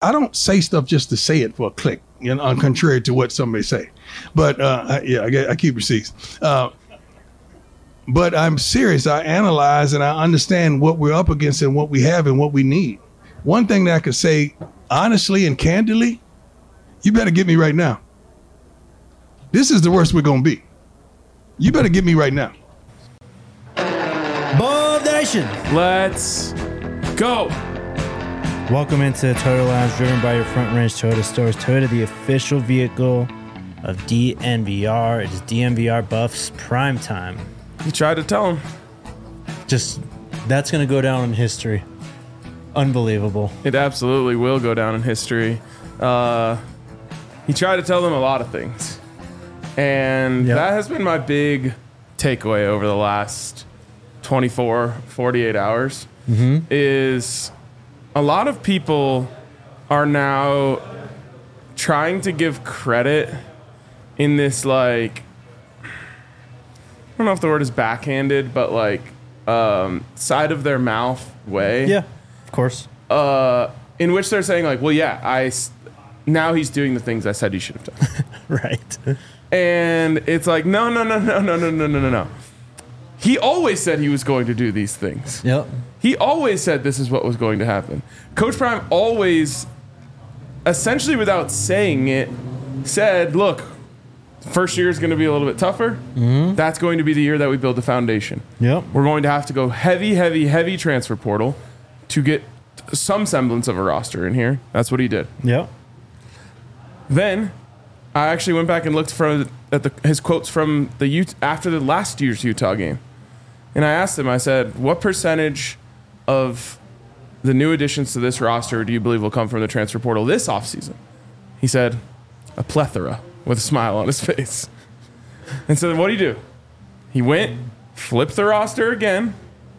I don't say stuff just to say it for a click, you know, contrary to what somebody say. But I keep receipts. But I'm serious. I analyze and I understand what we're up against and what we have and what we need. One thing that I could say honestly and candidly, you better get me right now. This is the worst we're going to be. You better get me right now. Bob Nation. Let's go. Welcome into Toyota Lounge, driven by your Front Range Toyota stores. Toyota, the official vehicle of DNVR. It is DNVR Buffs prime time. You tried to tell him. Just, that's going to go down in history. Unbelievable. It absolutely will go down in history. He tried to tell them a lot of things. And that has been my big takeaway over the last 24, 48 hours, is a lot of people are now trying to give credit in this, like, I don't know if the word is backhanded, but like side of their mouth way. Yeah, of course. In which they're saying like, well, yeah, now he's doing the things I said he should have done. Right. And it's like, no. He always said he was going to do these things. Yep. He always said this is what was going to happen. Coach Prime always, essentially without saying it, said, look, first year is going to be a little bit tougher. That's going to be the year that we build the foundation. Yep. We're going to have to go heavy transfer portal to get some semblance of a roster in here. That's what he did. Yep. Then I actually went back and looked at his quotes from after the last year's Utah game. And I asked him, I said, what percentage of the new additions to this roster do you believe will come from the transfer portal this offseason? He said, a plethora, with a smile on his face. And so then what did he do? He went, flipped the roster again,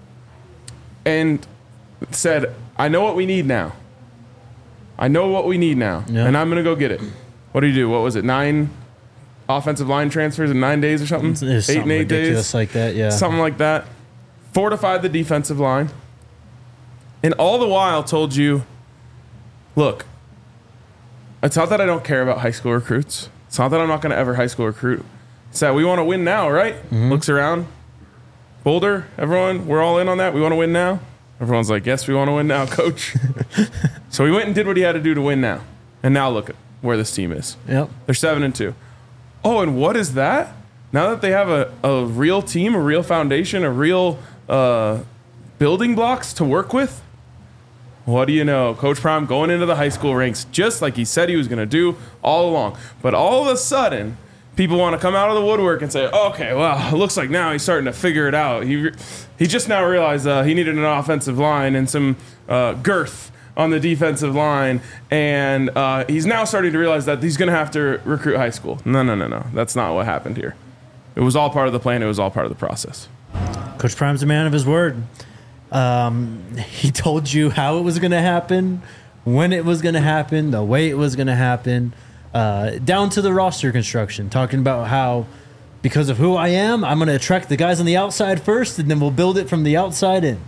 and said, I know what we need now. And I'm going to go get it. What did he do? What was it? 9 offensive line transfers in 9 days or something? It was 8 and 8 days. Like that, yeah. Something like that. Fortified the defensive line. And all the while told you, look, it's not that I don't care about high school recruits. It's not that I'm not going to ever high school recruit. It's that we want to win now, right? Looks around. Boulder, everyone, we're all in on that. We want to win now. Everyone's like, yes, we want to win now, coach. So he went and did what he had to do to win now. And now look at where this team is. Yep. They're 7-2. Oh, and what is that? Now that they have a real team, a real foundation, a real building blocks to work with, what do you know? Coach Prime going into the high school ranks just like he said he was going to do all along. But all of a sudden, people want to come out of the woodwork and say, okay, well, it looks like now he's starting to figure it out. He just now realized he needed an offensive line and some girth on the defensive line, and he's now starting to realize that he's going to have to recruit high school. No. That's not what happened here. It was all part of the plan. It was all part of the process. Coach Prime's a man of his word. He told you how it was going to happen, when it was going to happen, the way it was going to happen, down to the roster construction, talking about how because of who I am, I'm going to attract the guys on the outside first, and then we'll build it from the outside in.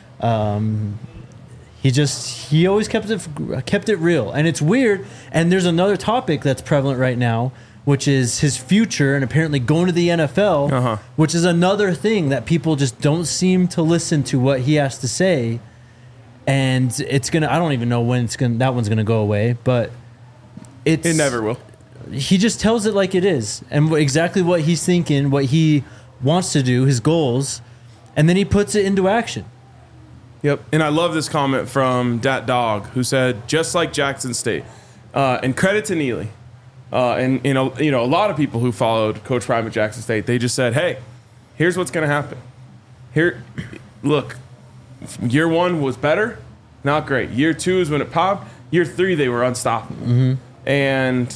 He always kept it real, and it's weird. And there's another topic that's prevalent right now, which is his future and apparently going to the NFL, which is another thing that people just don't seem to listen to what he has to say. And it's gonna, I don't even know when that one's gonna go away, but it never will. He just tells it like it is, and exactly what he's thinking, what he wants to do, his goals, and then he puts it into action. Yep, and I love this comment from Dat Dog, who said, just like Jackson State, and credit to Neely, and a lot of people who followed Coach Prime at Jackson State, they just said, hey, here's what's going to happen. Here, look, year 1 was better, not great. Year 2 is when it popped. Year 3, they were unstoppable, and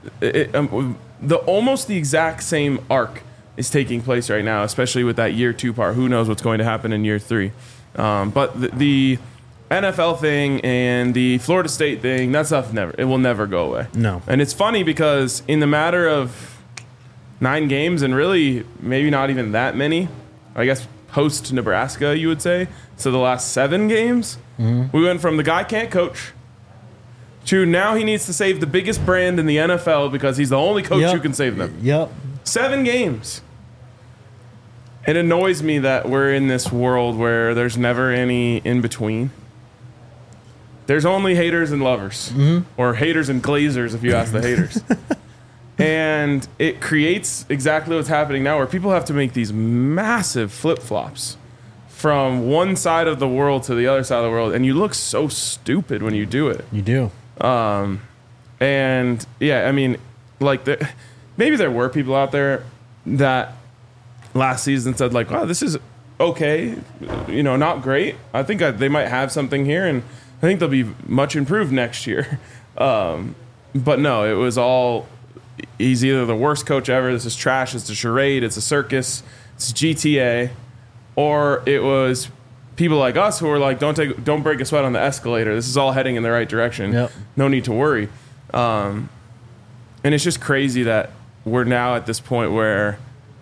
almost the exact same arc is taking place right now, especially with that year 2 part. Who knows what's going to happen in year 3? But the NFL thing and the Florida State thing, that stuff it will never go away. No. And it's funny because in the matter of 9 games, and really maybe not even that many, I guess post Nebraska, you would say, so the last 7 games, we went from the guy can't coach to now he needs to save the biggest brand in the NFL because he's the only coach who can save them. Yep. 7 games. It annoys me that we're in this world where there's never any in between. There's only haters and lovers, or haters and glazers if you ask the haters. And it creates exactly what's happening now, where people have to make these massive flip-flops from one side of the world to the other side of the world, and you look so stupid when you do it. You do. And yeah, I mean, like, maybe there were people out there that last season said, like, wow, this is okay, you know, not great. I think they might have something here, and I think they'll be much improved next year. But no, it was all, he's either the worst coach ever, this is trash, it's a charade, it's a circus, it's GTA, or it was people like us who were like, don't break a sweat on the escalator. This is all heading in the right direction. Yep. No need to worry. And it's just crazy that we're now at this point where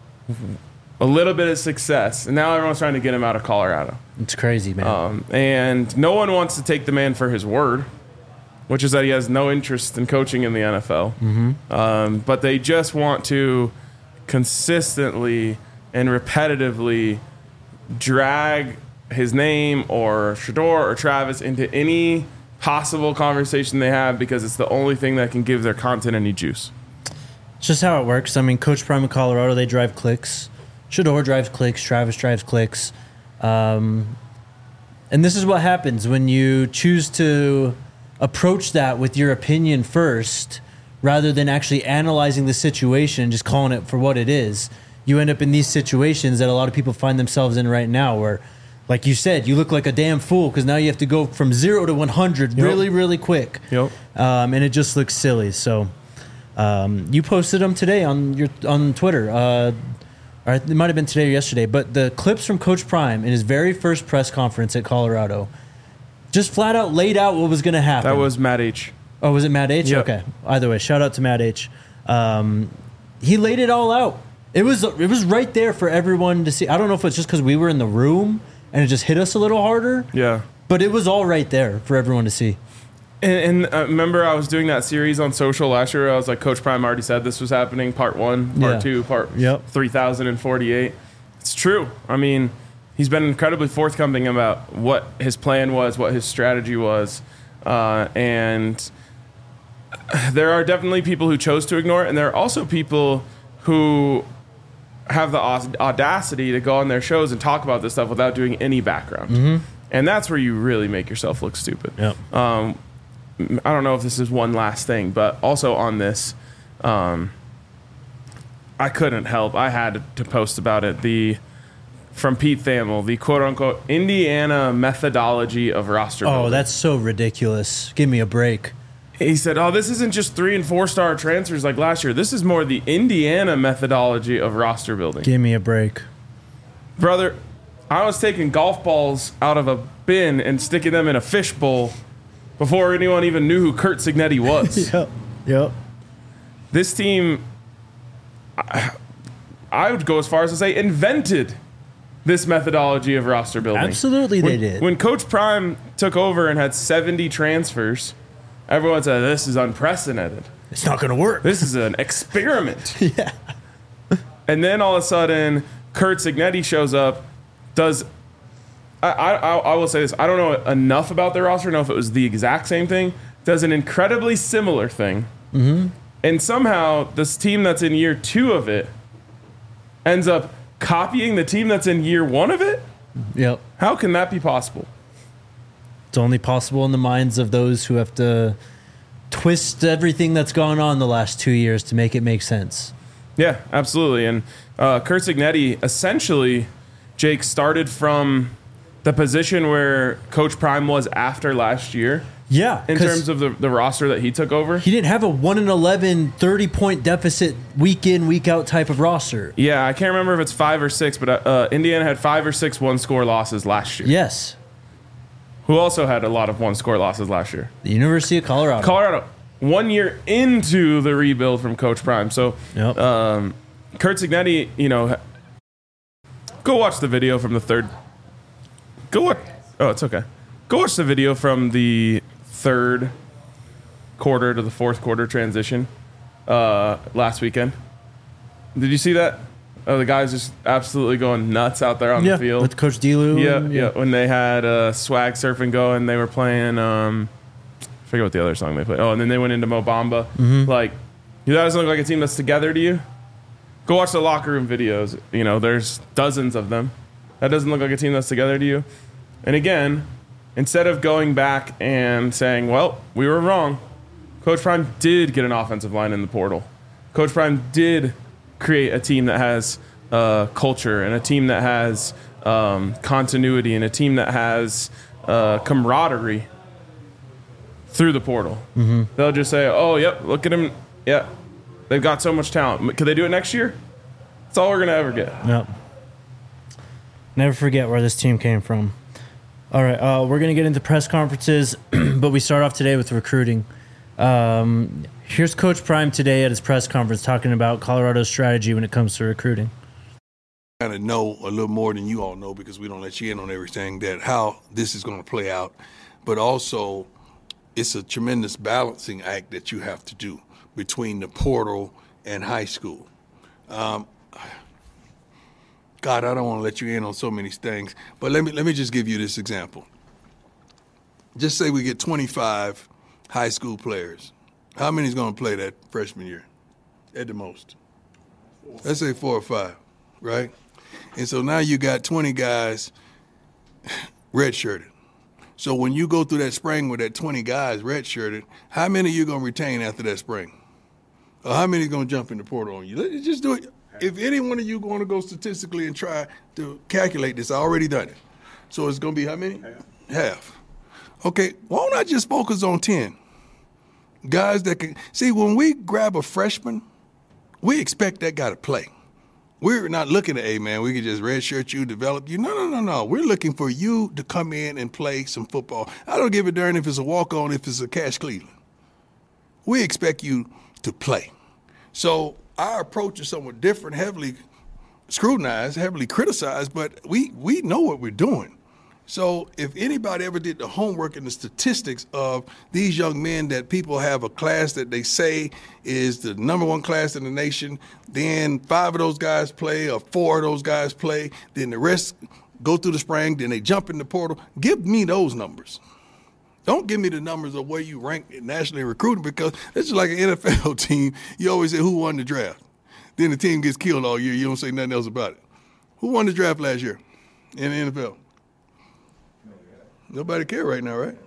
a little bit of success, and now everyone's trying to get him out of Colorado. It's crazy, man. And no one wants to take the man for his word, which is that he has no interest in coaching in the NFL. But they just want to consistently and repetitively drag his name or Shedeur or Travis into any possible conversation they have because it's the only thing that can give their content any juice. It's just how it works. I mean, Coach Prime in Colorado, they drive clicks. Shedeur drives clicks. Travis drives clicks. And this is what happens when you choose to approach that with your opinion first rather than actually analyzing the situation and just calling it for what it is. You end up in these situations that a lot of people find themselves in right now where, like you said, you look like a damn fool because now you have to go from 0 to 100 really, really quick. Yep. And it just looks silly. So you posted them today on Twitter. Or it might have been today or yesterday. But the clips from Coach Prime in his very first press conference at Colorado just flat out laid out what was going to happen. That was Matt H. Oh, was it Matt H? Yep. Okay. Either way, shout out to Matt H. He laid it all out. It was right there for everyone to see. I don't know if it's just because we were in the room and it just hit us a little harder. Yeah. But it was all right there for everyone to see. And remember, I was doing that series on social last year. I was like, Coach Prime already said this was happening. Part 1, part 2, part 3048. It's true. I mean, he's been incredibly forthcoming about what his plan was, what his strategy was. And there are definitely people who chose to ignore it. And there are also people who have the audacity to go on their shows and talk about this stuff without doing any background. And that's where you really make yourself look stupid. Yep. I don't know if this is one last thing, but also on this, I couldn't help. I had to post about it. From Pete Thamel, the quote-unquote Indiana methodology of roster building. Oh, that's so ridiculous. Give me a break. He said, this isn't just 3- and 4-star transfers like last year. This is more the Indiana methodology of roster building. Give me a break. Brother, I was taking golf balls out of a bin and sticking them in a fishbowl before anyone even knew who Curt Cignetti was. Yep. This team, I would go as far as to say, invented this methodology of roster building. Absolutely they did. When Coach Prime took over and had 70 transfers, everyone said, this is unprecedented. It's not going to work. This is an experiment. Yeah. And then all of a sudden, Curt Cignetti shows up, does... I will say this. I don't know enough about their roster. I don't know if it was the exact same thing. Does an incredibly similar thing. And somehow, this team that's in year 2 of it ends up copying the team that's in year 1 of it? Yep. How can that be possible? It's only possible in the minds of those who have to twist everything that's gone on the last 2 years to make it make sense. Yeah, absolutely. And Curt Cignetti, essentially, Jake, started from the position where Coach Prime was after last year. Yeah. In terms of the roster that he took over. He didn't have a 1-11, 30-point deficit week in, week out type of roster. Yeah, I can't remember if it's 5 or 6, but Indiana had 5 or 6 one-score losses last year. Yes. Who also had a lot of one-score losses last year? The University of Colorado. Colorado. 1 year into the rebuild from Coach Prime. So, Yep. Curt Cignetti, go watch the video from the third. Go watch. Oh, it's okay. Go watch the video from the third quarter to the fourth quarter transition last weekend. Did you see that? Oh, the guys just absolutely going nuts out there on the field. With Coach Delu. Yeah. When they had Swag Surfing going, they were playing, I forget what the other song they played. Oh, and then they went into Mo Bamba. Like, that doesn't look like a team that's together to you? Go watch the locker room videos. You know, there's dozens of them. That doesn't look like a team that's together to you? And again, instead of going back and saying, well, we were wrong, Coach Prime did get an offensive line in the portal. Coach Prime did create a team that has culture and a team that has continuity and a team that has camaraderie through the portal. They'll just say, oh, yep, look at them. Yeah, they've got so much talent. Could they do it next year? That's all we're going to ever get. Yep. Never forget where this team came from. All right, we're going to get into press conferences, but we start off today with recruiting. Here's Coach Prime today at his press conference talking about Colorado's strategy when it comes to recruiting. Kind of know a little more than you all know because we don't let you in on everything, that how this is going to play out. But also, it's a tremendous balancing act that you have to do between the portal and high school. God, I don't want to let you in on so many things, but let me just give you this example. Just say we get 25 high school players. How many is going to play that freshman year at the most? Let's say 4 or 5, right? And so now you got 20 guys redshirted. So when you go through that spring with that 20 guys redshirted, how many are you going to retain after that spring? Or how many are going to jump in the portal on you? Let's just do it. If any one of you going to go statistically and try to calculate this, I already done it. So it's going to be how many? Half. Okay, why don't I just focus on 10? Guys that can – see, when we grab a freshman, we expect that guy to play. We're not looking at, hey, man, we can just redshirt you, develop you. No. We're looking for you to come in and play some football. I don't give a darn if it's a walk-on, if it's a Cash Cleveland. We expect you to play. So our approach is somewhat different, heavily scrutinized, heavily criticized, but we know what we're doing. So if anybody ever did the homework and the statistics of these young men that people have a class that they say is the number one class in the nation, then 5 of those guys play or 4 of those guys play, then the rest go through the spring, then they jump in the portal. Give me those numbers. Don't give me the numbers of where you rank nationally recruiting, because this is like an NFL team. You always say who won the draft. Then the team gets killed all year. You don't say nothing else about it. Who won the draft last year in the NFL? Nobody care right now, right?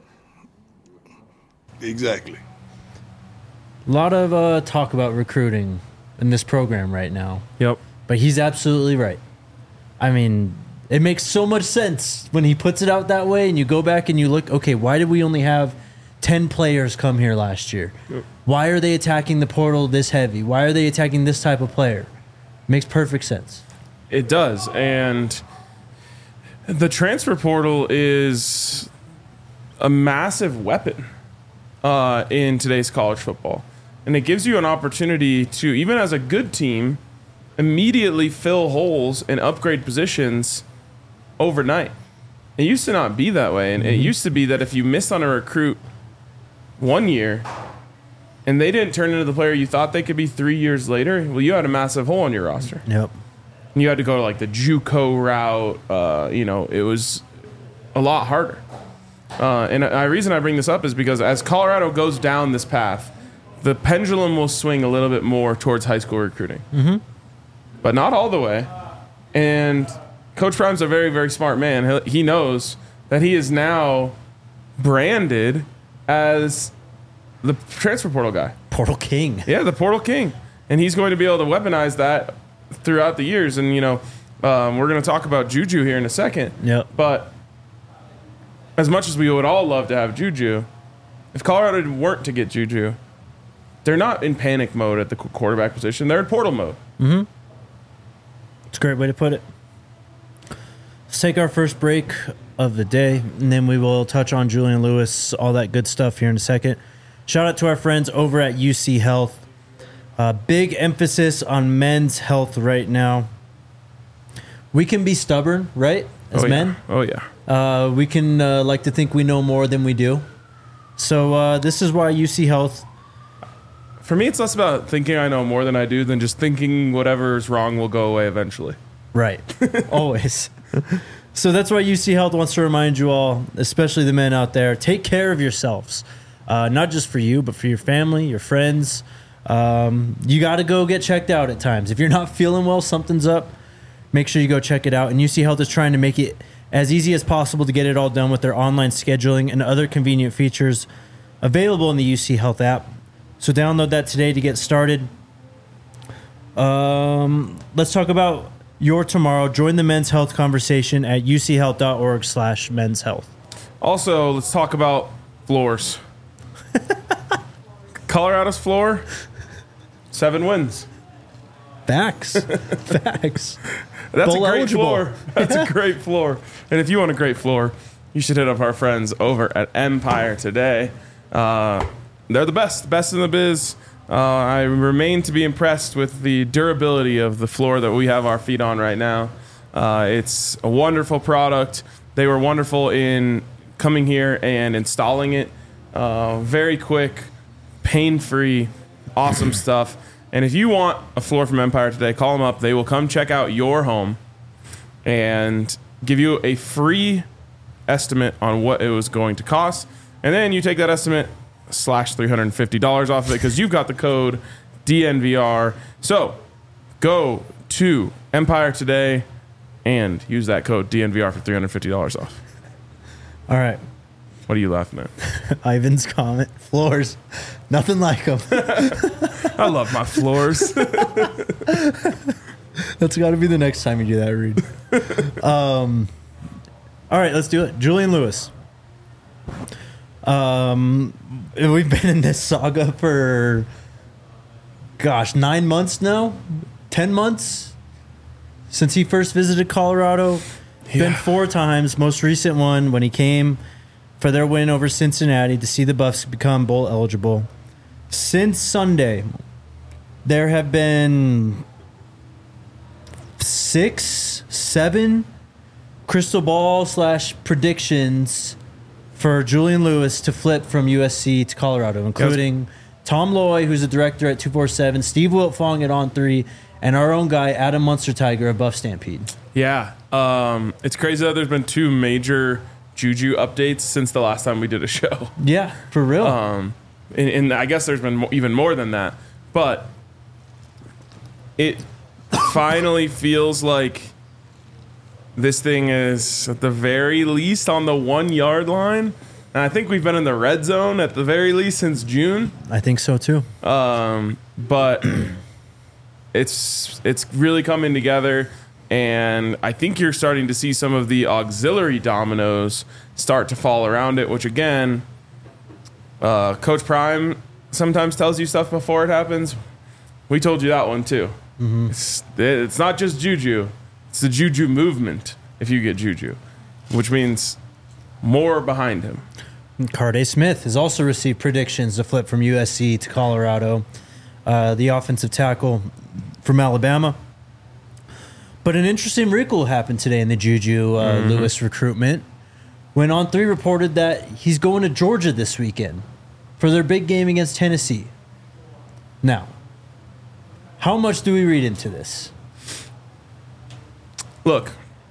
Exactly. A lot of talk about recruiting in this program right now. Yep. But he's absolutely right. I mean, it makes so much sense when he puts it out that way and you go back and you look, okay, why did we only have 10 players come here last year? Yep. Why are they attacking the portal this heavy? Why are they attacking this type of player? Makes perfect sense. It does. And the transfer portal is a massive weapon in today's college football. And it gives you an opportunity to, even as a good team, immediately fill holes and upgrade positions overnight. It used to not be that way. And it used to be that if you missed on a recruit 1 year and they didn't turn into the player you thought they could be 3 years later, well, you had a massive hole on your roster. Yep. You had to go like the JUCO route. It was a lot harder. And the reason I bring this up is because as Colorado goes down this path, the pendulum will swing a little bit more towards high school recruiting. But not all the way. And Coach Prime's a very, very smart man. He knows that he is now branded as the transfer portal guy. Portal king. Yeah, the portal king. And he's going to be able to weaponize that throughout the years. And, we're going to talk about Juju here in a second. Yep. But as much as we would all love to have Juju, if Colorado weren't to get Juju, they're not in panic mode at the quarterback position. They're in portal mode. It's a great way to put it. Let's take our first break of the day, and then we will touch on Julian Lewis, all that good stuff here in a second. Shout out to our friends over at UC Health. Big emphasis on men's health right now. We can be stubborn, right? As men. Oh, yeah. We can like to think we know more than we do. So this is why UC Health. For me, it's less about thinking I know more than I do than just thinking whatever's wrong will go away eventually. Right. Always. So that's why UC Health wants to remind you all, especially the men out there, take care of yourselves. Not just for you, but for your family, your friends. You got to go get checked out at times. If you're not feeling well, something's up, make sure you go check it out. And UC Health is trying to make it as easy as possible to get it all done with their online scheduling and other convenient features available in the UC Health app. So download that today to get started. Let's talk about your tomorrow. Join the men's health conversation at uchealth.org/men's health. Also, let's talk about floors. Colorado's floor, 7 wins. Facts. Facts. That's Bowl a great eligible. floor. That's a great floor. And if you want a great floor, you should hit up our friends over at Empire today. They're the best in the biz. I remain to be impressed with the durability of the floor that we have our feet on right now. It's a wonderful product. They were wonderful in coming here and installing it. Very quick, pain-free, awesome stuff. And if you want a floor from Empire today, call them up. They will come check out your home and give you a free estimate on what it was going to cost. And then you take that estimate slash $350 off of it because you've got the code DNVR. So go to Empire today and use that code DNVR for $350 off. All right. What are you laughing at? Ivan's comment. Floors. Nothing like them. I love my floors. That's got to be the next time you do that, Reed. All right, let's do it. Julian Lewis. We've been in this saga for, 9 months now? 10 months? Since he first visited Colorado. Yeah. Been 4 times. Most recent one when he came for their win over Cincinnati to see the Buffs become bowl eligible. Since Sunday, there have been 6, 7 crystal ball / predictions for Julian Lewis to flip from USC to Colorado, including Tom Loy, who's a director at 247, Steve Wiltfong at On 3, and our own guy, Adam Munster-Tiger of Buff Stampede. Yeah. It's crazy that there's been 2 major Juju updates since the last time we did a show. Yeah, for real. And I guess there's been even more than that. But it finally feels like this thing is at the very least on the 1-yard line. And I think we've been in the red zone at the very least since June. I think so too. But it's really coming together. And I think you're starting to see some of the auxiliary dominoes start to fall around it, which again, Coach Prime sometimes tells you stuff before it happens. We told you that one too. Mm-hmm. It's not just Juju. It's the Juju movement if you get Juju, which means more behind him. Carday Smith has also received predictions to flip from USC to Colorado, the offensive tackle from Alabama. But an interesting wrinkle happened today in the Juju Lewis recruitment when On 3 reported that he's going to Georgia this weekend for their big game against Tennessee. Now, how much do we read into this? Look,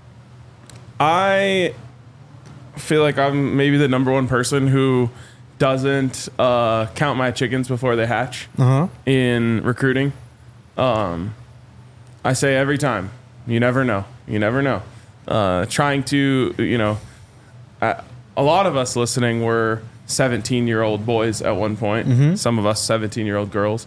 I feel like I'm maybe the number one person who doesn't count my chickens before they hatch in recruiting. I say every time, you never know. You never know. Trying to, a lot of us listening were 17-year-old boys at one point. Mm-hmm. Some of us 17-year-old girls.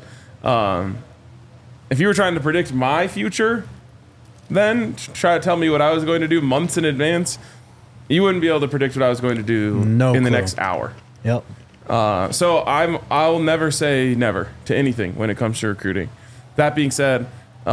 If you were trying to predict my future, then try to tell me what I was going to do months in advance, you wouldn't be able to predict what I was going to do the next hour. Yep. So I'll never say never to anything when it comes to recruiting. That being said,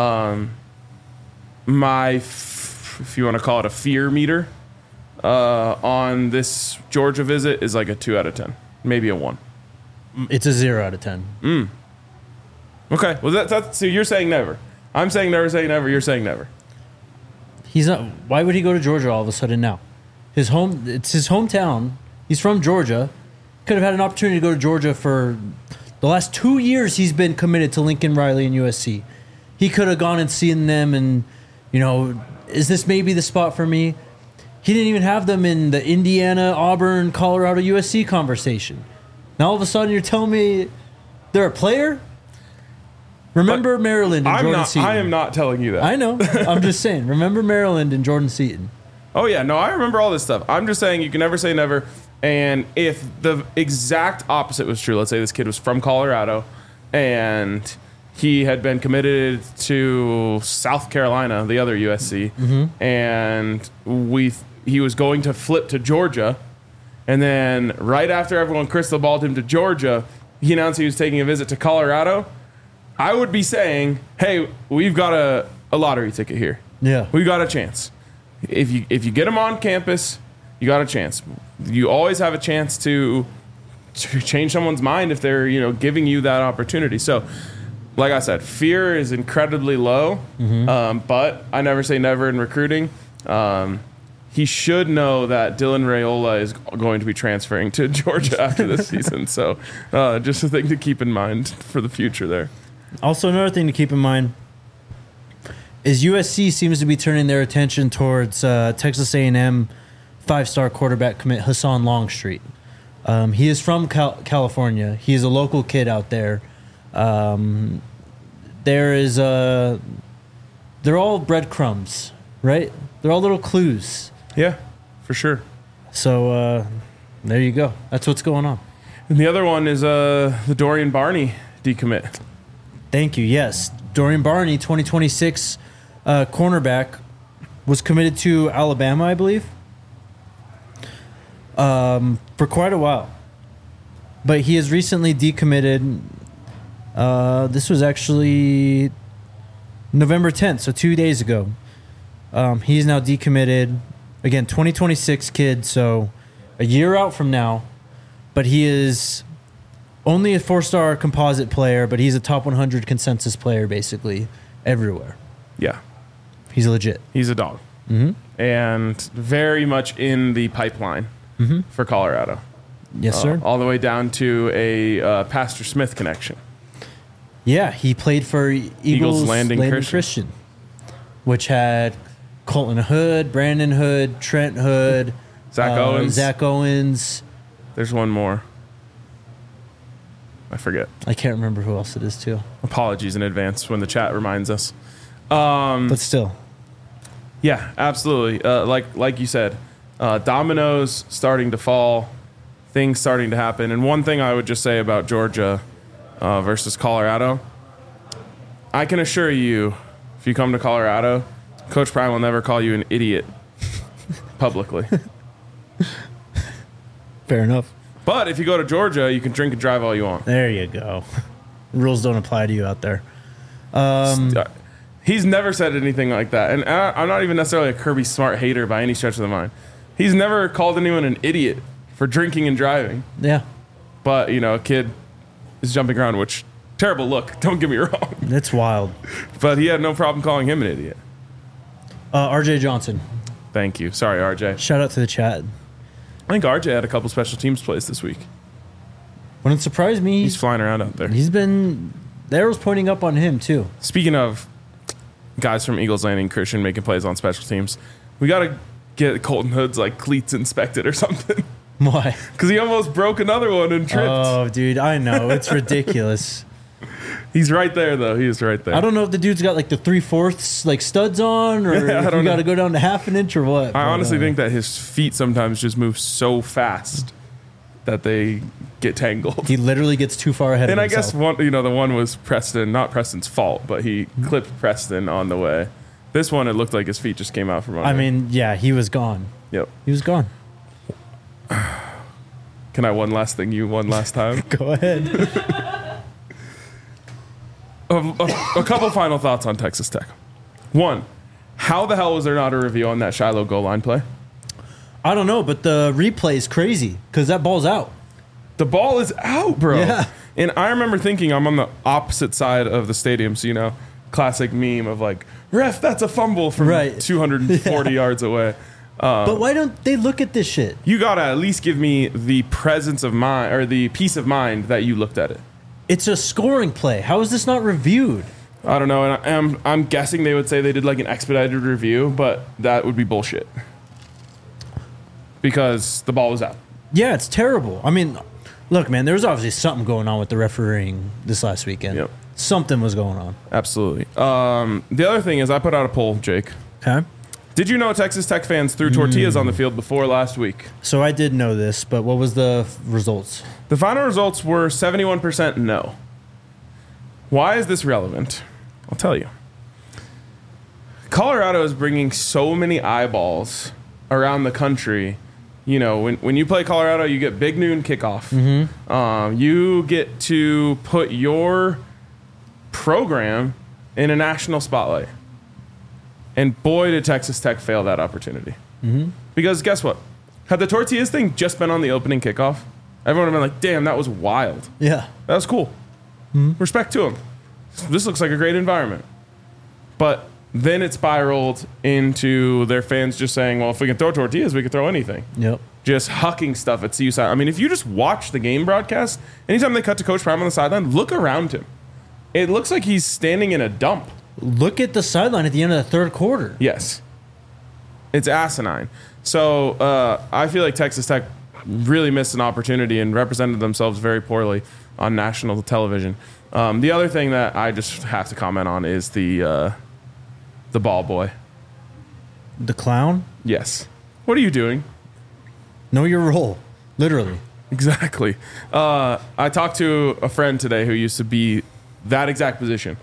if you want to call it a fear meter, on this Georgia visit is like a 2 out of 10, maybe a 1. It's a 0 out of 10. Okay. Well, that's so you're saying never. I'm saying never, saying never. You're saying never. He's not. Why would he go to Georgia all of a sudden now? It's his hometown. He's from Georgia. Could have had an opportunity to go to Georgia for the last 2 years. He's been committed to Lincoln Riley and USC. He could have gone and seen them and, is this maybe the spot for me? He didn't even have them in the Indiana, Auburn, Colorado, USC conversation. Now all of a sudden you're telling me they're a player? Remember Maryland and Jordan Seaton. I am not telling you that. I know. I'm just saying. Remember Maryland and Jordan Seaton. Oh, yeah. No, I remember all this stuff. I'm just saying you can never say never. And if the exact opposite was true, let's say this kid was from Colorado and he had been committed to South Carolina, the other USC, and he was going to flip to Georgia, and then right after everyone crystal balled him to Georgia, he announced he was taking a visit to Colorado, I would be saying, hey, we've got a lottery ticket here. Yeah. We got a chance. If you get him on campus, you got a chance. You always have a chance to change someone's mind if they're, giving you that opportunity. So, like I said, fear is incredibly low, but I never say never in recruiting. He should know that Dylan Raiola is going to be transferring to Georgia after this season. So, just a thing to keep in mind for the future there. Also, another thing to keep in mind is USC seems to be turning their attention towards Texas A&M five-star quarterback commit Hassan Longstreet. He is from California. He is a local kid out there. They're all breadcrumbs, right? They're all little clues. Yeah, for sure. So there you go. That's what's going on. And the other one is the Dorian Barney decommit. Thank you. Yes, Dorian Barney, 2026 cornerback, was committed to Alabama, I believe, for quite a while. But he has recently decommitted. This was actually November 10th, so 2 days ago. He is now decommitted. Again, 2026 kid, so a year out from now. But he is only a 4-star composite player, but he's a top 100 consensus player basically everywhere. Yeah. He's legit. He's a dog. And very much in the pipeline for Colorado. Yes, sir. All the way down to a Pastor Smith connection. Yeah, he played for Eagles Landing Christian, which had Colton Hood, Brandon Hood, Trent Hood, Zach Owens. There's one more. I forget. I can't remember who else it is, too. Apologies in advance when the chat reminds us. But still. Yeah, absolutely. Like you said, dominoes starting to fall, things starting to happen. And one thing I would just say about Georgia versus Colorado, I can assure you, if you come to Colorado, Coach Prime will never call you an idiot publicly. Fair enough. But if you go to Georgia, you can drink and drive all you want. There you go. Rules don't apply to you out there. He's never said anything like that. And I'm not even necessarily a Kirby Smart hater by any stretch of the mind. He's never called anyone an idiot for drinking and driving. Yeah. But, a kid is jumping around, which, terrible look. Don't get me wrong. It's wild. But he had no problem calling him an idiot. RJ Johnson. Thank you. Sorry, RJ. Shout out to the chat. I think RJ had a couple special teams plays this week. Wouldn't surprise me. He's flying around out there. He's been... The arrow's pointing up on him, too. Speaking of guys from Eagles Landing Christian making plays on special teams, we got to get Colton Hood's cleats inspected or something. Why? Because he almost broke another one and tripped. Oh, dude, I know. It's ridiculous. He's right there, though. He is right there. I don't know if the dude's got the 3/4 studs on, or if you got to go down to half an inch or what. I honestly think that his feet sometimes just move so fast that they get tangled. He literally gets too far ahead of himself. And I guess the one was Preston, not Preston's fault, but he clipped Preston on the way. This one, it looked like his feet just came out from under. I mean, yeah, he was gone. Yep. He was gone. Can I one last thing you one last time? Go ahead. A couple final thoughts on Texas Tech. One, how the hell was there not a review on that Shiloh goal line play? I don't know, but the replay is crazy because that ball's out. The ball is out, bro. Yeah. And I remember thinking I'm on the opposite side of the stadium, so, classic meme of ref, that's a fumble from 240 yards away. But why don't they look at this shit? You gotta at least give me the presence of mind or the peace of mind that you looked at it. It's a scoring play. How is this not reviewed? I don't know, and I'm guessing they would say they did like an expedited review, but that would be bullshit because the ball was out. Yeah, it's terrible. I mean, look, man, there was obviously something going on with the refereeing this last weekend. Yep. Something was going on. Absolutely. The other thing is I put out a poll, Jake. Okay. Did you know Texas Tech fans threw tortillas on the field before last week? So I did know this, but what was the results? The final results were 71% no. Why is this relevant? I'll tell you. Colorado is bringing so many eyeballs around the country. You know, when you play Colorado, you get big noon kickoff. Mm-hmm. You get to put your program in a national spotlight. And boy, did Texas Tech fail that opportunity. Mm-hmm. Because guess what? Had the tortillas thing just been on the opening kickoff, everyone would have been like, damn, that was wild. Yeah. That was cool. Mm-hmm. Respect to them. This looks like a great environment. But then it spiraled into their fans just saying, well, if we can throw tortillas, we can throw anything. Yep. Just hucking stuff at CU side. I mean, if you just watch the game broadcast, anytime they cut to Coach Prime on the sideline, look around him. It looks like he's standing in a dump. Look at the sideline at the end of the third quarter. Yes. It's asinine. So I feel like Texas Tech really missed an opportunity and represented themselves very poorly on national television. The other thing that I just have to comment on is the ball boy. The clown? Yes. What are you doing? Know your role. Literally. Exactly. I talked to a friend today who used to be that exact position.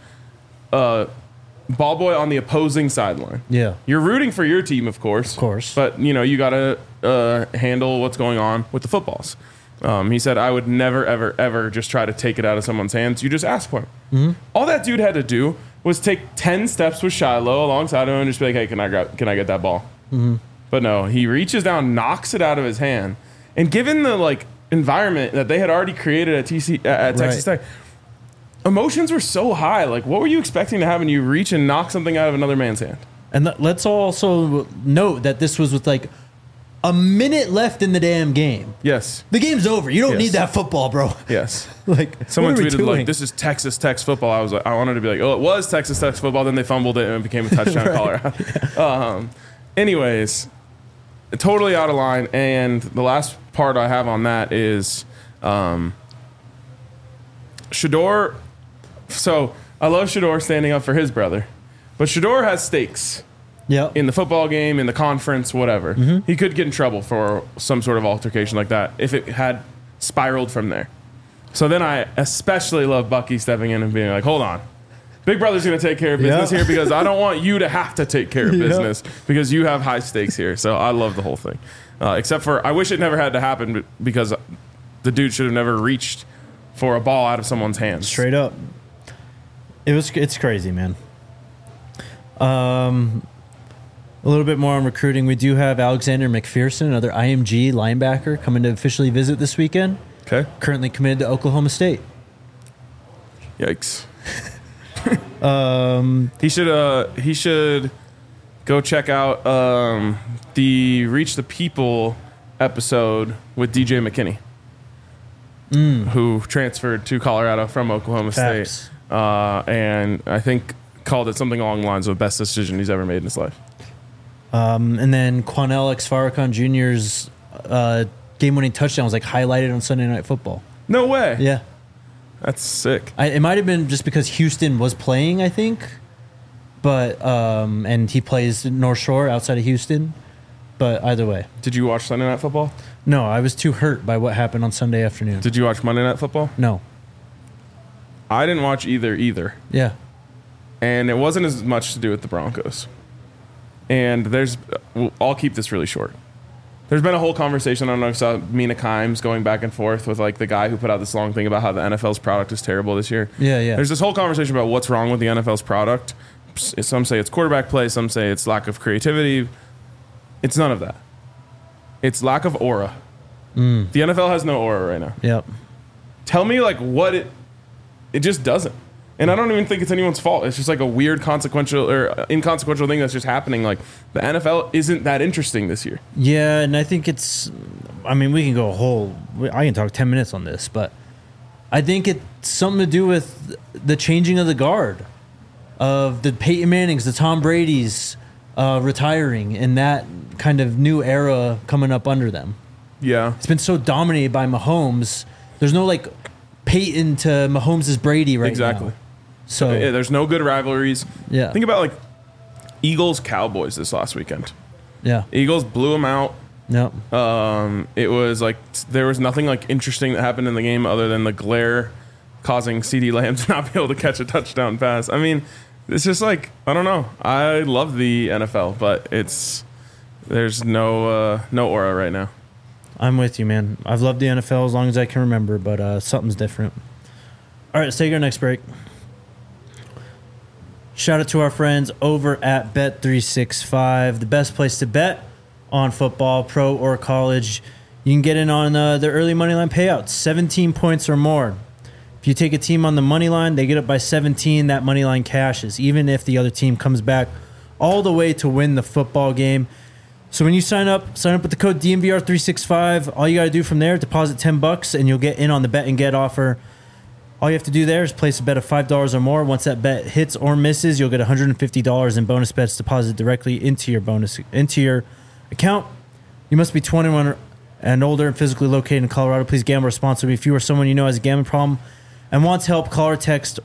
Ball boy on the opposing sideline. Yeah. You're rooting for your team, of course. Of course. But, you know, you got to handle what's going on with the footballs. He said, I would never, ever, ever just try to take it out of someone's hands. You just ask for it. Mm-hmm. All that dude had to do was take 10 steps with Shiloh alongside him and just be like, hey, can I get that ball? Mm-hmm. But no, he reaches down, knocks it out of his hand. And given the, like, environment that they had already created at Texas Tech, emotions were so high. Like, what were you expecting to have when you reach and knock something out of another man's hand? And let's also note that this was with like a minute left in the damn game. Yes. The game's over. You don't need that football, bro. Yes. Like, someone tweeted like, this is Texas Tech's football. I was like, I wanted to be like, oh, it was Texas Tech's football. Then they fumbled it and it became a touchdown. Colorado. Yeah. Anyways, totally out of line. And the last part I have on that is Shedeur. So I love Shedeur standing up for his brother, but Shedeur has stakes. Yeah. In the football game, in the conference, whatever. Mm-hmm. He could get in trouble for some sort of altercation like that if it had spiraled from there. So then I especially love Bucky stepping in and being like, hold on. Big brother's going to take care of business here because I don't want you to have to take care of business because you have high stakes here. So I love the whole thing. Except for I wish it never had to happen because the dude should have never reached for a ball out of someone's hands. Straight up. It's crazy, man. A little bit more on recruiting. We do have Alexander McPherson, another IMG linebacker, coming to officially visit this weekend. Okay. Currently committed to Oklahoma State. Yikes. He should go check out the Reach the People episode with DJ McKinney, who transferred to Colorado from Oklahoma State, and I think called it something along the lines of the best decision he's ever made in his life. And then Quanell X-Farrakhan Jr.'s game-winning touchdown was like highlighted on Sunday Night Football. No way. Yeah. That's sick. It might have been just because Houston was playing, I think. But and he plays North Shore outside of Houston. But either way. Did you watch Sunday Night Football? No, I was too hurt by what happened on Sunday afternoon. Did you watch Monday Night Football? No. I didn't watch either. Yeah. And it wasn't as much to do with the Broncos. And I'll keep this really short. There's been a whole conversation, I don't know if you saw Mina Kimes going back and forth with like the guy who put out this long thing about how the NFL's product is terrible this year. Yeah. There's this whole conversation about what's wrong with the NFL's product. Some say it's quarterback play, some say it's lack of creativity. It's none of that. It's lack of aura. The NFL has no aura right now. Yep. Tell me like what it just doesn't. And I don't even think it's anyone's fault. It's just like a weird consequential or inconsequential thing that's just happening. Like the NFL isn't that interesting this year. Yeah, and I think we can go I can talk 10 minutes on this, but I think it's something to do with the changing of the guard, of the Peyton Mannings, the Tom Brady's retiring, and that kind of new era coming up under them. Yeah. It's been so dominated by Mahomes. There's no like Peyton to Mahomes' Brady right now. Exactly. So yeah, there's no good rivalries. Yeah. Think about like Eagles Cowboys this last weekend. Yeah. Eagles blew them out. Yep. It was like there was nothing like interesting that happened in the game other than the glare causing CeeDee Lamb to not be able to catch a touchdown pass. I mean, it's just like, I don't know. I love the NFL, but there's no aura right now. I'm with you, man. I've loved the NFL as long as I can remember, but something's different. All right, let's take our next break. Shout out to our friends over at Bet365, the best place to bet on football, pro or college. You can get in on their early money line payouts, 17 points or more. If you take a team on the money line, they get up by 17, that money line cashes, even if the other team comes back all the way to win the football game. So when you sign up with the code DNVR365. All you got to do from there, deposit $10, and you'll get in on the bet and get offer. All you have to do there is place a bet of $5 or more. Once that bet hits or misses, you'll get $150 in bonus bets deposited directly into your account. You must be 21 and older and physically located in Colorado. Please gamble responsibly. If you or someone you know has a gambling problem and wants help, call or text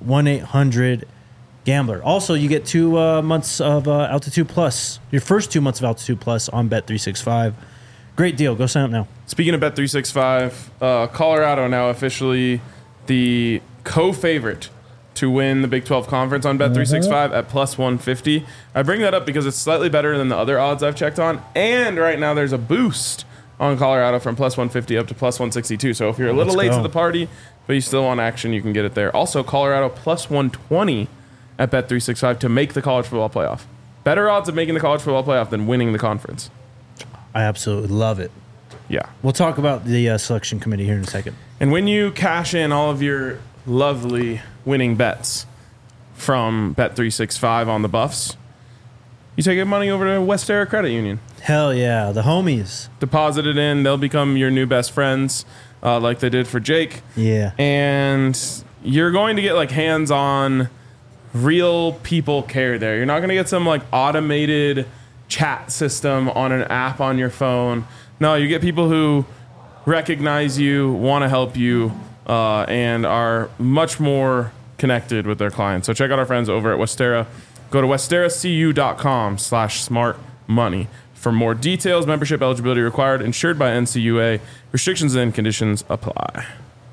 1-800-GAMBLER. Also, you get 2 months of Altitude Plus, your first 2 months of Altitude Plus on Bet365. Great deal. Go sign up now. Speaking of Bet365, Colorado now officially the co-favorite to win the Big 12 Conference on Bet365 at plus 150. I bring that up because it's slightly better than the other odds I've checked on. And right now there's a boost on Colorado from plus 150 up to plus 162. So if you're a little late to the party, but you still want action, you can get it there. Also, Colorado plus 120 at Bet365 to make the college football playoff. Better odds of making the college football playoff than winning the conference. I absolutely love it. Yeah. We'll talk about the selection committee here in a second. And when you cash in all of your lovely winning bets from Bet365 on the Buffs, you take your money over to Westera Credit Union. Hell yeah, the homies. Deposit it in. They'll become your new best friends like they did for Jake. Yeah. And you're going to get like hands-on, real people care there. You're not going to get some like automated chat system on an app on your phone. No, you get people who recognize you, want to help you, and are much more connected with their clients. So check out our friends over at Westera. Go to westeracu.com/smartmoney for more details. Membership eligibility required. Insured by NCUA. Restrictions and conditions apply.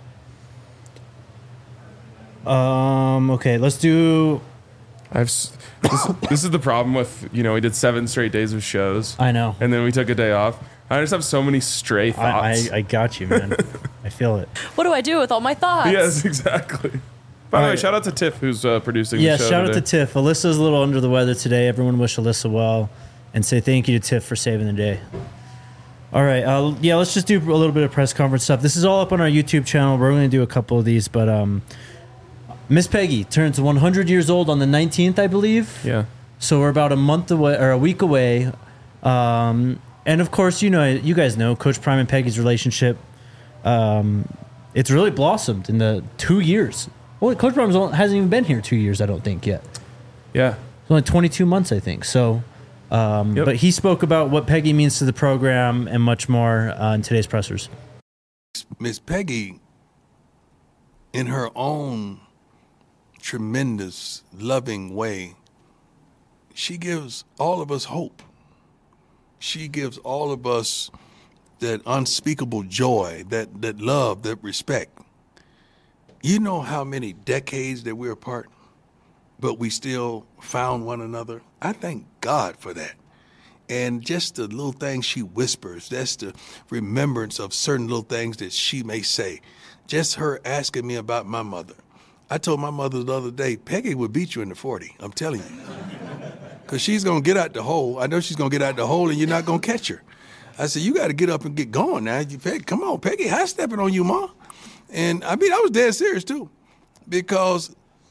Okay, let's do... This is the problem with, we did 7 straight days of shows. I know. And then we took a day off. I just have so many stray thoughts. I got you, man. I feel it. What do I do with all my thoughts? Yes, exactly. By the way, shout out to Tiff, who's producing the show today. Yeah, shout out to Tiff. Alyssa's a little under the weather today. Everyone wish Alyssa well and say thank you to Tiff for saving the day. All right. Let's just do a little bit of press conference stuff. This is all up on our YouTube channel. We're going to do a couple of these, but Miss Peggy turns 100 years old on the 19th, I believe. Yeah. So we're about a month away or a week away. And of course, you guys know Coach Prime and Peggy's relationship. It's really blossomed in the 2 years. Well, Coach Prime hasn't even been here 2 years, I don't think, yet. Yeah. It's only 22 months, I think. So, But he spoke about what Peggy means to the program and much more in today's pressers. Miss Peggy, in her own tremendous, loving way, she gives all of us hope. She gives all of us that unspeakable joy, that love, that respect. You know how many decades that we're apart, but we still found one another? I thank God for that. And just the little things she whispers, that's the remembrance of certain little things that she may say. Just her asking me about my mother. I told my mother the other day, Peggy would beat you in the 40, I'm telling you. Because she's going to get out the hole. I know she's going to get out the hole and you're not going to catch her. I said, you got to get up and get going now. Come on, Peggy, high stepping on you, Ma. And I was dead serious too. Because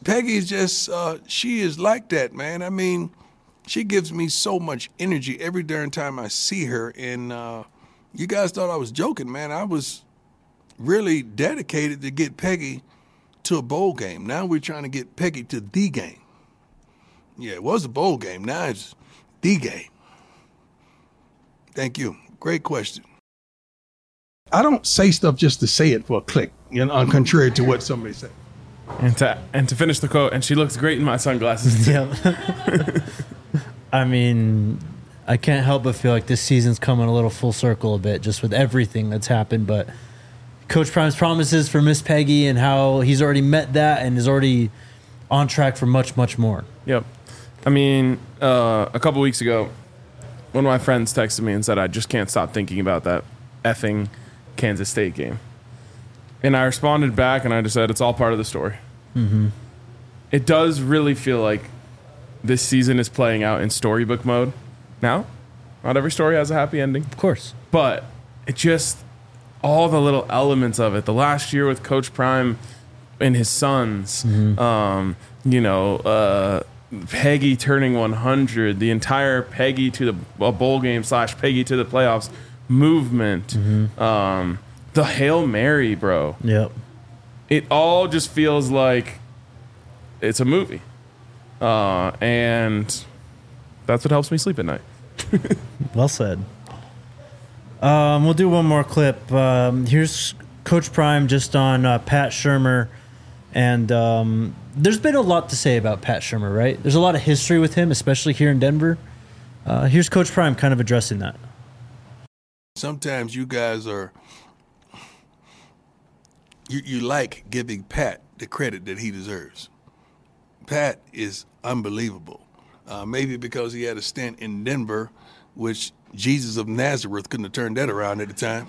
Peggy is just, she is like that, man. I mean, she gives me so much energy every darn time I see her. And you guys thought I was joking, man. I was really dedicated to get Peggy to a bowl game. Now we're trying to get Peggy to the game. Yeah, it was a bowl game. Now it's the game. Thank you. Great question. I don't say stuff just to say it for a click, contrary to what somebody said. And to finish the quote, and she looks great in my sunglasses too. Yeah. I mean, I can't help but feel like this season's coming a little full circle a bit, just with everything that's happened. But Coach Prime's promises for Miss Peggy and how he's already met that and is already on track for much, much more. Yep. I mean, a couple weeks ago, one of my friends texted me and said, I just can't stop thinking about that effing Kansas State game. And I responded back and I just said, it's all part of the story. Mm-hmm. It does really feel like this season is playing out in storybook mode. Now, not every story has a happy ending. Of course. But it just, all the little elements of it. The last year with Coach Prime and his sons, Peggy turning 100, the entire Peggy to a bowl game / Peggy to the playoffs movement, the Hail Mary, bro. Yep. It all just feels like it's a movie. And that's what helps me sleep at night. Well said. We'll do one more clip. Here's Coach Prime just on Pat Shurmur. And there's been a lot to say about Pat Shurmur, right? There's a lot of history with him, especially here in Denver. Here's Coach Prime kind of addressing that. Sometimes you guys are, you like giving Pat the credit that he deserves. Pat is unbelievable. Maybe because he had a stint in Denver, which Jesus of Nazareth couldn't have turned that around at the time.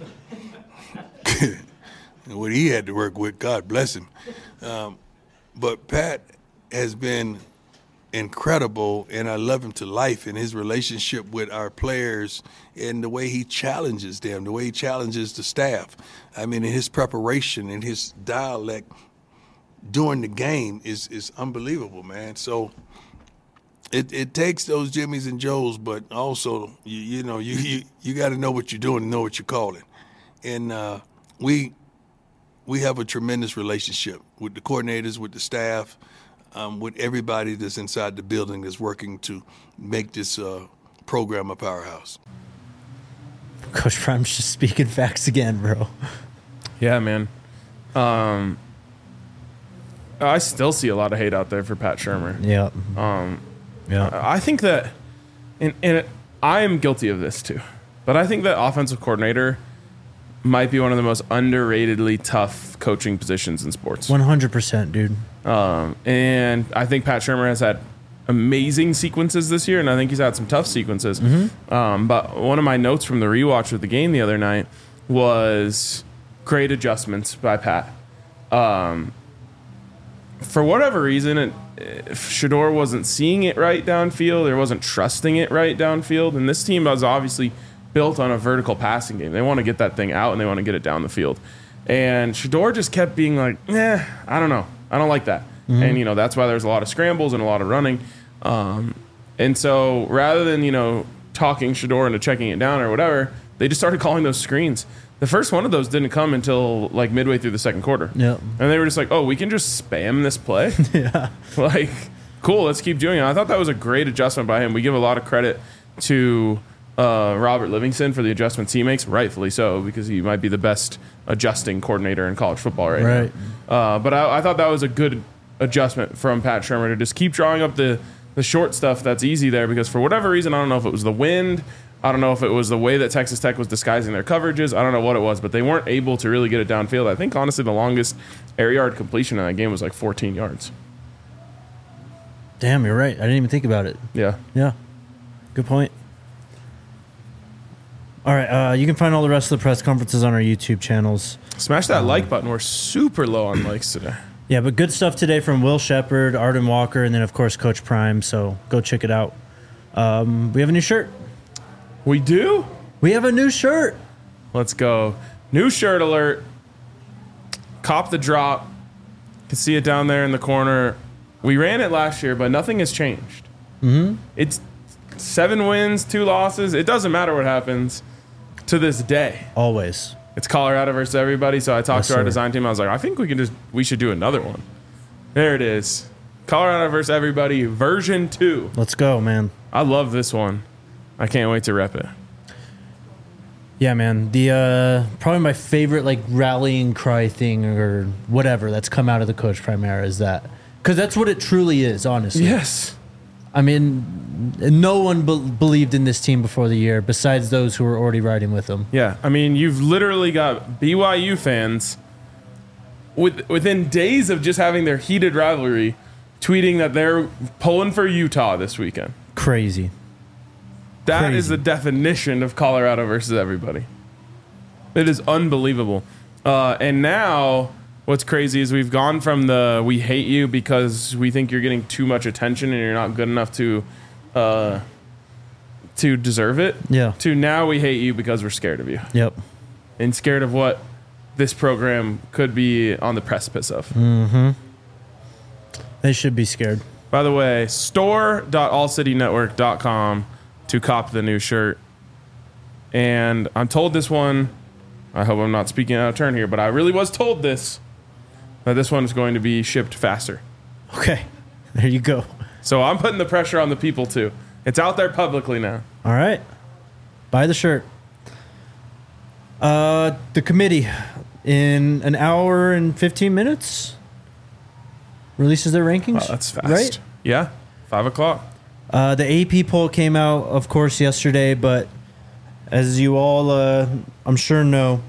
And what he had to work with, God bless him. But Pat has been incredible, and I love him to life in his relationship with our players and the way he challenges them, the way he challenges the staff. I mean, in his preparation and his dialect during the game is unbelievable, man. So it takes those Jimmys and Joes, but also you got to know what you're doing and know what you're calling. And we have a tremendous relationship with the coordinators, with the staff, with everybody that's inside the building that's working to make this program a powerhouse. Coach Prime's just speaking facts again, bro. Yeah, man. I still see a lot of hate out there for Pat Shurmur. Yeah. I think that, and I am guilty of this too, but I think that offensive coordinator might be one of the most underratedly tough coaching positions in sports. 100%, dude. And I think Pat Shurmur has had amazing sequences this year, and I think he's had some tough sequences. Mm-hmm. But one of my notes from the rewatch of the game the other night was great adjustments by Pat. For whatever reason, Shedeur wasn't seeing it right downfield, or wasn't trusting it right downfield, and this team was obviously built on a vertical passing game. They want to get that thing out, and they want to get it down the field. And Shedeur just kept being like, I don't know. I don't like that. Mm-hmm. And, that's why there's a lot of scrambles and a lot of running. And so rather than, talking Shedeur into checking it down or whatever, they just started calling those screens. The first one of those didn't come until like midway through the second quarter. Yep. And they were just like, oh, we can just spam this play? Yeah. Like, cool, let's keep doing it. I thought that was a great adjustment by him. We give a lot of credit to Robert Livingston for the adjustments he makes, rightfully so, because he might be the best adjusting coordinator in college football right now. But I thought that was a good adjustment from Pat Shurmur to just keep drawing up the short stuff that's easy there, because for whatever reason, I don't know if it was the wind, I don't know if it was the way that Texas Tech was disguising their coverages, I don't know what it was, but they weren't able to really get it downfield. I think, honestly, the longest air yard completion in that game was like 14 yards. Damn, you're right. I didn't even think about it. Yeah. Yeah. Good point. All right, you can find all the rest of the press conferences on our YouTube channels. Smash that like button. We're super low on likes today. Yeah, but good stuff today from Will Shepard, Arden Walker, and then, of course, Coach Prime. So go check it out. We have a new shirt. We do? We have a new shirt. Let's go. New shirt alert. Cop the drop. You can see it down there in the corner. We ran it last year, but nothing has changed. Mm-hmm. It's 7 wins, 2 losses. It doesn't matter what happens to this day. Always. It's Colorado versus everybody. So I talked to our sir. design team. I was like, I think we should do another one. There it is. Colorado versus everybody, version 2. Let's go, man. I love this one. I can't wait to rep it. Yeah, man. The probably my favorite like rallying cry thing or whatever that's come out of the Coach Primera is that, because that's what it truly is, honestly. Yes. I mean, no one believed in this team before the year, besides those who were already riding with them. Yeah, I mean, you've literally got BYU fans within days of just having their heated rivalry, tweeting that they're pulling for Utah this weekend. Crazy. That is the definition of Colorado versus everybody. It is unbelievable. And now, what's crazy is we've gone from the we hate you because we think you're getting too much attention and you're not good enough to deserve it. Yeah. To now we hate you because we're scared of you. Yep. And scared of what this program could be on the precipice of. Mm-hmm. They should be scared. By the way, store.allcitynetwork.com to cop the new shirt. And I'm told this one, I hope I'm not speaking out of turn here, but I really was told this, that this one is going to be shipped faster. Okay. There you go. So I'm putting the pressure on the people too. It's out there publicly now. All right. Buy the shirt. The committee, in an hour and 15 minutes, releases their rankings. Oh, that's fast. Right? Yeah. 5 o'clock. The AP poll came out, of course, yesterday, but as you all, I'm sure know,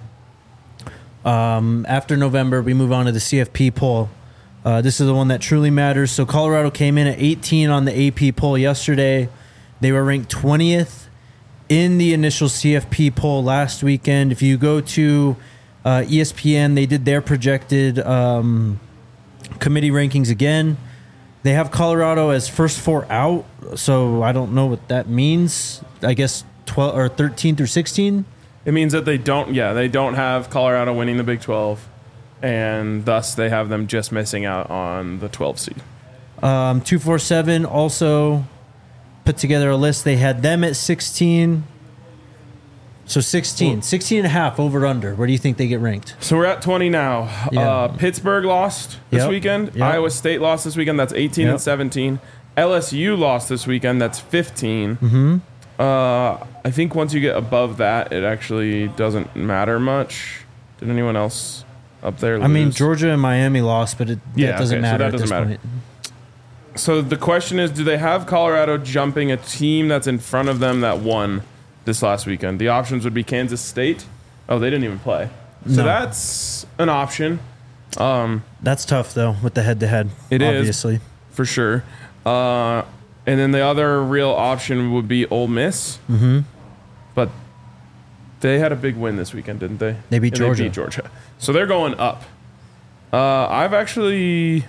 after November, we move on to the CFP poll. This is the one that truly matters. So Colorado came in at 18 on the AP poll yesterday. They were ranked 20th in the initial CFP poll last weekend. If you go to ESPN, they did their projected committee rankings again. They have Colorado as first 4 out, so I don't know what that means. I guess 12 or 13 through 16. It means that they don't have Colorado winning the Big 12, and thus they have them just missing out on the 12 seed. 247 also put together a list. They had them at 16. So 16 and a half over under. Where do you think they get ranked? So we're at 20 now. Yeah. Pittsburgh lost this weekend. Yep. Iowa State lost this weekend. That's 18 and 17. LSU lost this weekend. That's 15. Mm-hmm. I think once you get above that, it actually doesn't matter much. Did anyone else up there lose? I mean, Georgia and Miami lost, but that doesn't matter at this point. So the question is, do they have Colorado jumping a team that's in front of them that won this last weekend? The options would be Kansas State. Oh, they didn't even play. So that's an option. That's tough, though, with the head-to-head. It is, obviously. for sure. And then the other real option would be Ole Miss. Mm-hmm. But they had a big win this weekend, didn't they? They beat Georgia. They beat Georgia. So they're going up. I've actually...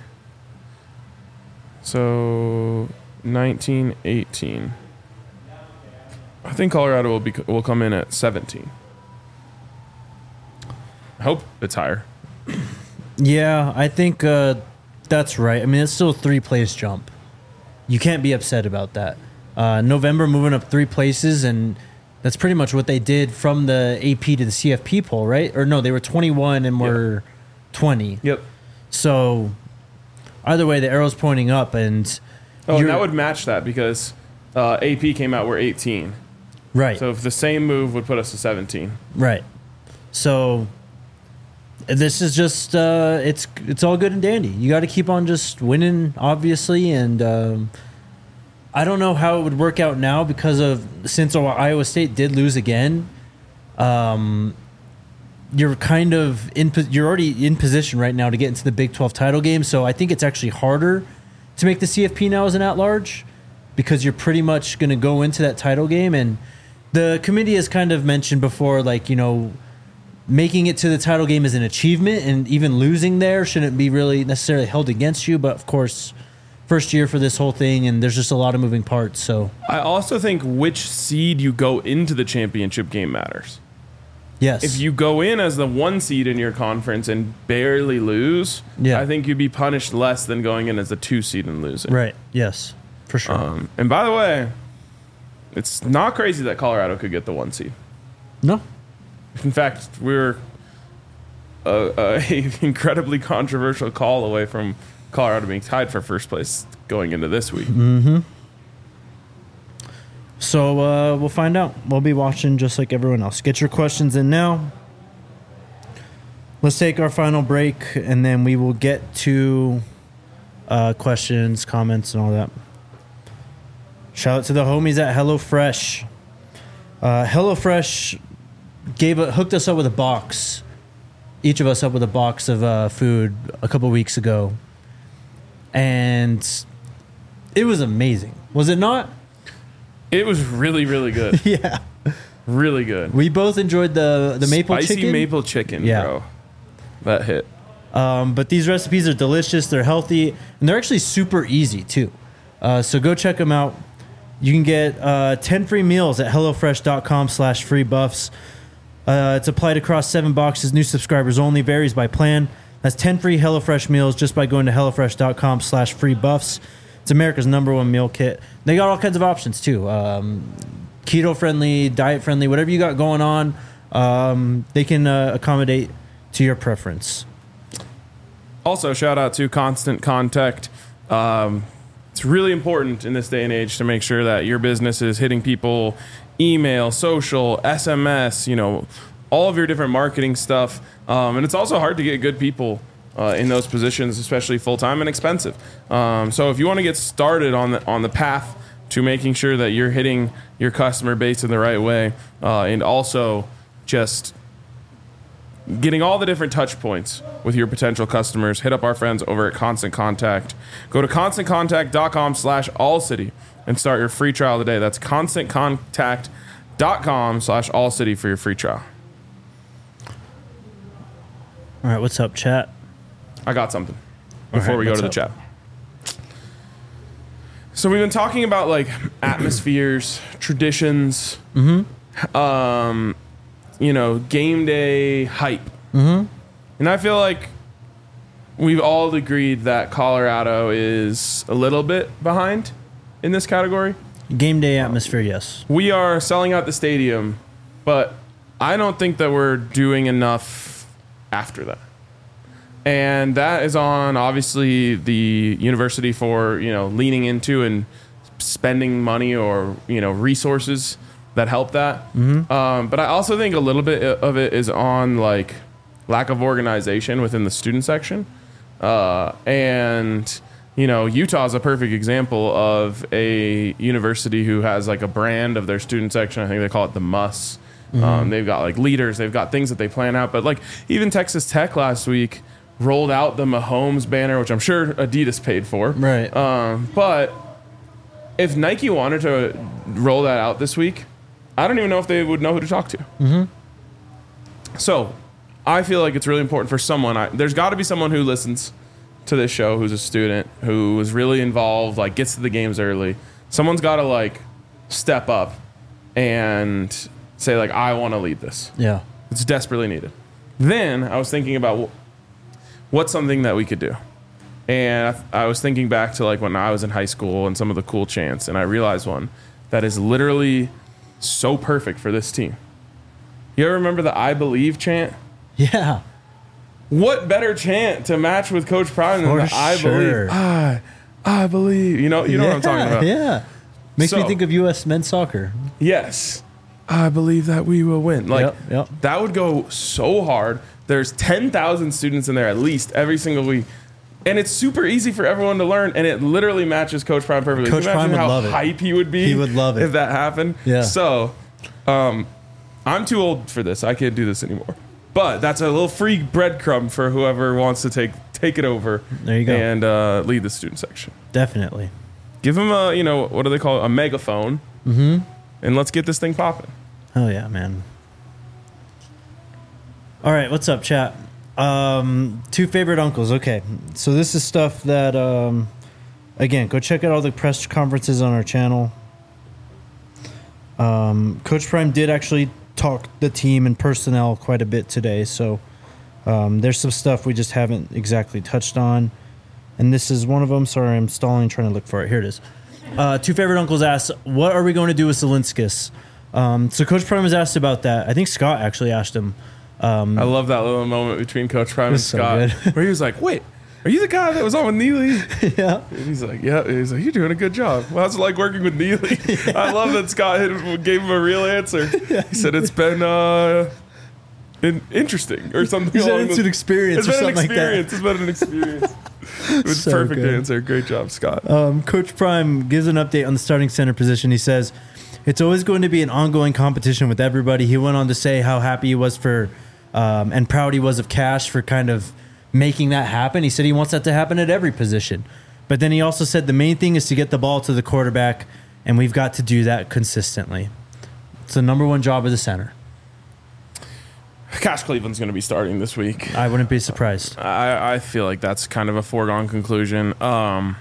So 19, 18. I think Colorado will come in at 17. I hope it's higher. Yeah, I think that's right. I mean, it's still a 3-place jump. You can't be upset about that. November moving up 3 places, and that's pretty much what they did from the AP to the CFP poll, right? Or no, they were 21 and were 20. Yep. So either way, the arrow's pointing up, and and that would match that because AP came out, we're 18. Right. So if the same move would put us to 17. Right. So this is just it's all good and dandy. You got to keep on just winning, obviously, and I don't know how it would work out now because since Iowa State did lose again. You're kind of you're already in position right now to get into the Big 12 title game. So I think it's actually harder to make the CFP now as an at-large because you're pretty much going to go into that title game. And the committee has kind of mentioned before, like, you know, making it to the title game is an achievement, and even losing there shouldn't be really necessarily held against you. But of course, first year for this whole thing, and there's just a lot of moving parts. So I also think which seed you go into the championship game matters. Yes. If you go in as the 1 seed in your conference and barely lose, I think you'd be punished less than going in as a 2 seed and losing. Right. Yes. For sure. And by the way, it's not crazy that Colorado could get the 1 seed. No. In fact, we're a incredibly controversial call away from Colorado being tied for first place going into this week. Mm-hmm. So we'll find out. We'll be watching just like everyone else. Get your questions in now. Let's take our final break, and then we will get to questions, comments, and all that. Shout out to the homies at HelloFresh. HelloFresh hooked us up with a box. Each of us up with a box of food a couple weeks ago. And it was amazing. Was it not? It was really, really good. Yeah. Really good. We both enjoyed the maple chicken. Spicy maple chicken, bro. That hit. But these recipes are delicious. They're healthy. And they're actually super easy, too. So go check them out. You can get 10 free meals at HelloFresh.com/free buffs. It's applied across 7 boxes. New subscribers only. Varies by plan. That's 10 free HelloFresh meals just by going to HelloFresh.com/free buffs. It's America's #1 meal kit. They got all kinds of options, too. Keto friendly, diet friendly, whatever you got going on, they can accommodate to your preference. Also, shout out to Constant Contact. It's really important in this day and age to make sure that your business is hitting people, email, social, SMS, all of your different marketing stuff. And it's also hard to get good people in those positions, especially full-time and expensive. So if you want to get started on the path to making sure that you're hitting your customer base in the right way, and also just getting all the different touch points with your potential customers, hit up our friends over at Constant Contact. Go to ConstantContact.com/allcity and start your free trial today. That's ConstantContact.com/allcity for your free trial. All right, what's up, chat? I got something before we go to the chat. So we've been talking about like atmospheres, traditions, game day hype. And I feel like we've all agreed that Colorado is a little bit behind in this category. Game day atmosphere, yes. We are selling out the stadium, but I don't think that we're doing enough after that. And that is on, obviously, the university for, leaning into and spending money or, resources that help that. But I also think a little bit of it is on, like, lack of organization within the student section. And, Utah is a perfect example of a university who has, like, a brand of their student section. I think they call it the MUS. They've got, like, leaders. They've got things that they plan out. But, like, even Texas Tech last week rolled out the Mahomes banner, which I'm sure Adidas paid for. Right. But if Nike wanted to roll that out this week, I don't even know if they would know who to talk to. So I feel like it's really important for someone. There's got to be someone who listens to this show who's a student, who is really involved, like gets to the games early. Someone's got to like step up and say like, I want to lead this. Yeah. It's desperately needed. Then I was thinking about what's something that we could do. And I was thinking back to like when I was in high school and some of the cool chants, and I realized one that is literally so perfect for this team. You ever remember the I Believe chant? Yeah. What better chant to match with Coach Prime than the I Believe? I believe. You know what I'm talking about? Yeah. Makes me think of U.S. men's soccer. Yes. I believe that we will win. Like, yep. That would go so hard. There's 10,000 students in there at least every single week. And it's super easy for everyone to learn, and it literally matches Coach Prime perfectly. Coach Prime would love it. How hype he would be. He would love it if that happened. Yeah. So, I'm too old for this. I can't do this anymore. But that's a little free breadcrumb for whoever wants to take it over. There you go. And lead the student section. Definitely. Give them a, what do they call it? A megaphone. And let's get this thing popping. Oh yeah, man. All right, what's up, chat? 2 favorite uncles. Okay, so this is stuff that, again, go check out all the press conferences on our channel. Coach Prime did actually talked the team and personnel quite a bit today. So there's some stuff we just haven't exactly touched on. And this is one of them. Sorry, I'm stalling, trying to look for it. Here it is. Two Favorite Uncles asked, what are we going to do with Zielinskis? So Coach Prime was asked about that. I think Scott actually asked him. I love that little moment between Coach Prime and Scott, so where he was like, "Wait, are you the guy that was on with Neely?" Yeah. And he's like, "Yeah." He's like, "You're doing a good job." Well, how's it like working with Neely? Yeah. I love that Scott gave him a real answer. Yeah. He said it's been interesting or something. It's an experience or something like that. It's been an experience. It was so perfect good. Answer. Great job, Scott. Coach Prime gives an update on the starting center position. He says, it's always going to be an ongoing competition with everybody. He went on to say how happy he was for and proud he was of Cash for kind of making that happen. He said he wants that to happen at every position. But then he also said the main thing is to get the ball to the quarterback, and we've got to do that consistently. It's the number one job of the center. Cash Cleveland's going to be starting this week. I wouldn't be surprised. I feel like that's kind of a foregone conclusion. I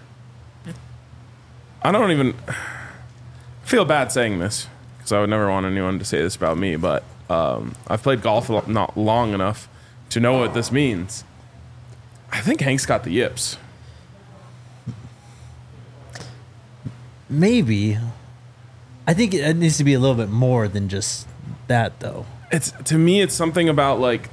don't even feel bad saying this because I would never want anyone to say this about me, but I've played golf not long enough to know what this means. I think Hank's got the yips. Maybe. I think it needs to be a little bit more than just that, though. To me, it's something about like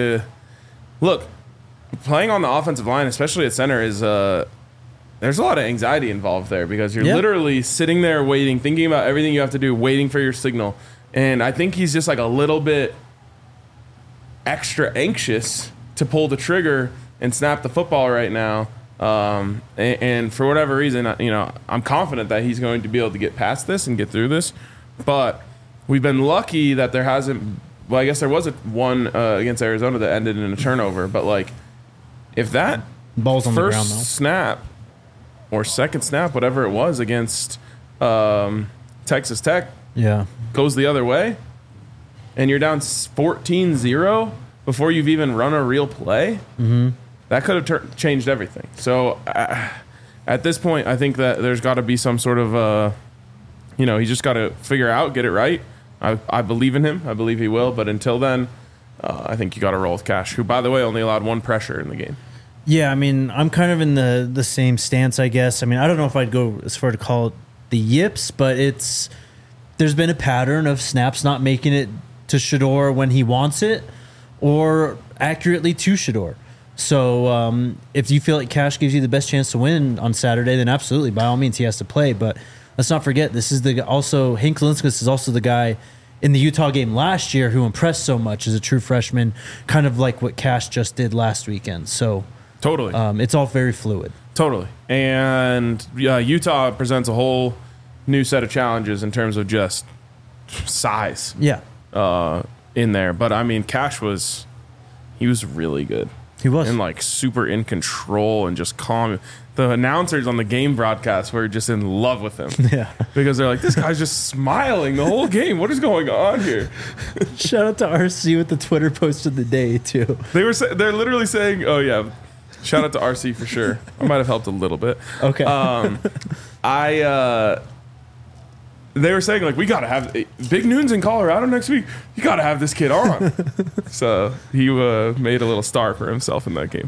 playing on the offensive line, especially at center, is there's a lot of anxiety involved there because you're literally sitting there waiting, thinking about everything you have to do, waiting for your signal. And I think he's just like a little bit extra anxious to pull the trigger and snap the football right now. And for whatever reason, I'm confident that he's going to be able to get past this and get through this. But we've been lucky that there hasn't. Well, I guess there was one against Arizona that ended in a turnover. But like, if that ball's on the ground, though, snap or second snap, whatever it was against Texas Tech, goes the other way, and you're down 14-0 before you've even run a real play, that could have changed everything. So at this point, I think that there's got to be some sort of, he's just got to figure out, get it right. I believe in him. I believe he will. But until then, I think you got to roll with Cash, who, by the way, only allowed one pressure in the game. Yeah, I mean, I'm kind of in the same stance, I guess. I mean, I don't know if I'd go as far to call it the yips, but there's been a pattern of snaps not making it to Shedeur when he wants it or accurately to Shedeur. So if you feel like Cash gives you the best chance to win on Saturday, then absolutely, by all means, he has to play. But let's not forget, this is Hank Zielinskis is also the guy in the Utah game last year who impressed so much as a true freshman, kind of like what Cash just did last weekend. So totally, it's all very fluid. Totally. And Utah presents a whole new set of challenges in terms of just size. Yeah. In there. But I mean, Cash was really good. He was. And like super in control and just calm. The announcers on the game broadcast were just in love with him. Yeah. Because they're like, this guy's just smiling the whole game. What is going on here? Shout out to RC with the Twitter post of the day, too. They're literally saying, oh, yeah. Shout out to RC for sure. I might have helped a little bit. Okay. They were saying, like, we got to have Big Noon's in Colorado next week. You got to have this kid on. So he made a little star for himself in that game.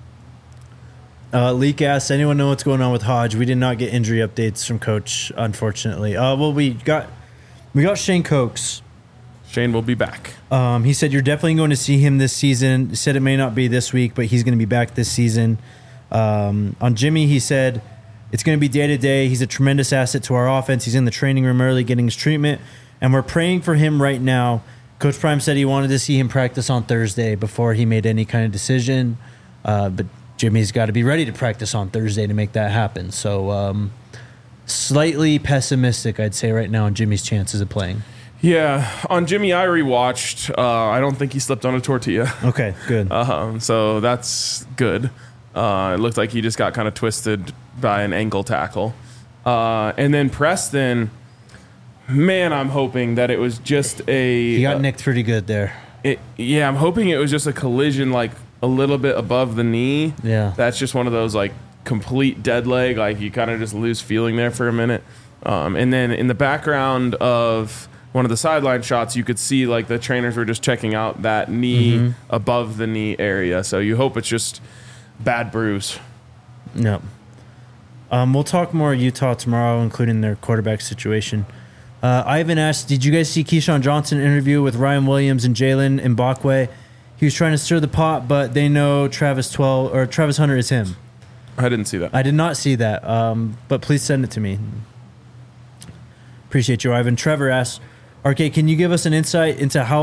Leak asks, anyone know what's going on with Hodge? We did not get injury updates from Coach, unfortunately. Well, we got Shane Cokes. Shane will be back. He said you're definitely going to see him this season. He said it may not be this week, but he's going to be back this season. On Jimmy, he said it's going to be day to day. He's a tremendous asset to our offense. He's in the training room early getting his treatment, and we're praying for him right now. Coach Prime said he wanted to see him practice on Thursday before he made any kind of decision, but Jimmy's got to be ready to practice on Thursday to make that happen. So slightly pessimistic, I'd say, right now on Jimmy's chances of playing. Yeah, on Jimmy, I rewatched. I don't think he slipped on a tortilla. Okay, good. So that's good. It looked like he just got kind of twisted by an ankle tackle. And then Preston, man, I'm hoping that it was just He got nicked pretty good there. I'm hoping it was just a collision, like a little bit above the knee. Yeah. That's just one of those, like, complete dead leg. Like, you kind of just lose feeling there for a minute. And then in the background of one of the sideline shots, you could see like the trainers were just checking out that knee above the knee area. So you hope it's just bad bruise. No. We'll talk more Utah tomorrow, including their quarterback situation. Ivan asked, did you guys see Keyshawn Johnson interview with Ryan Williams and Jalen Mbakwe? He was trying to stir the pot, but they know Travis Hunter is him. I didn't see that. I did not see that, but please send it to me. Appreciate you, Ivan. Trevor asks, RK, can you give us an insight into how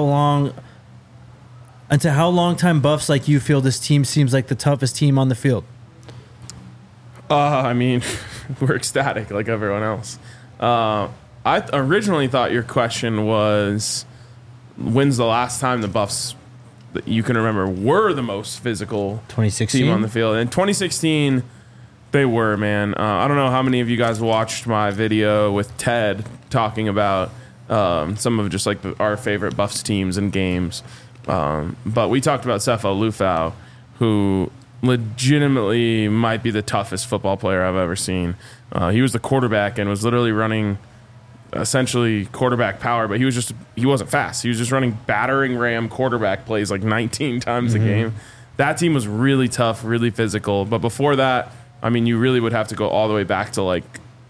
long-time buffs like you feel this team seems like the toughest team on the field? I mean, we're ecstatic like everyone else. I originally thought your question was, when's the last time the Buffs that you can remember were the most physical 2016 team on the field? In 2016, they were, man. I don't know how many of you guys watched my video with Ted talking about some of just like our favorite Buffs teams and games. But we talked about Sefo Lufau, who legitimately might be the toughest football player I've ever seen. He was the quarterback and was literally running essentially quarterback power, but he wasn't fast. He was just running battering ram quarterback plays like 19 times a game. That team was really tough, really physical. But before that, I mean, you really would have to go all the way back to like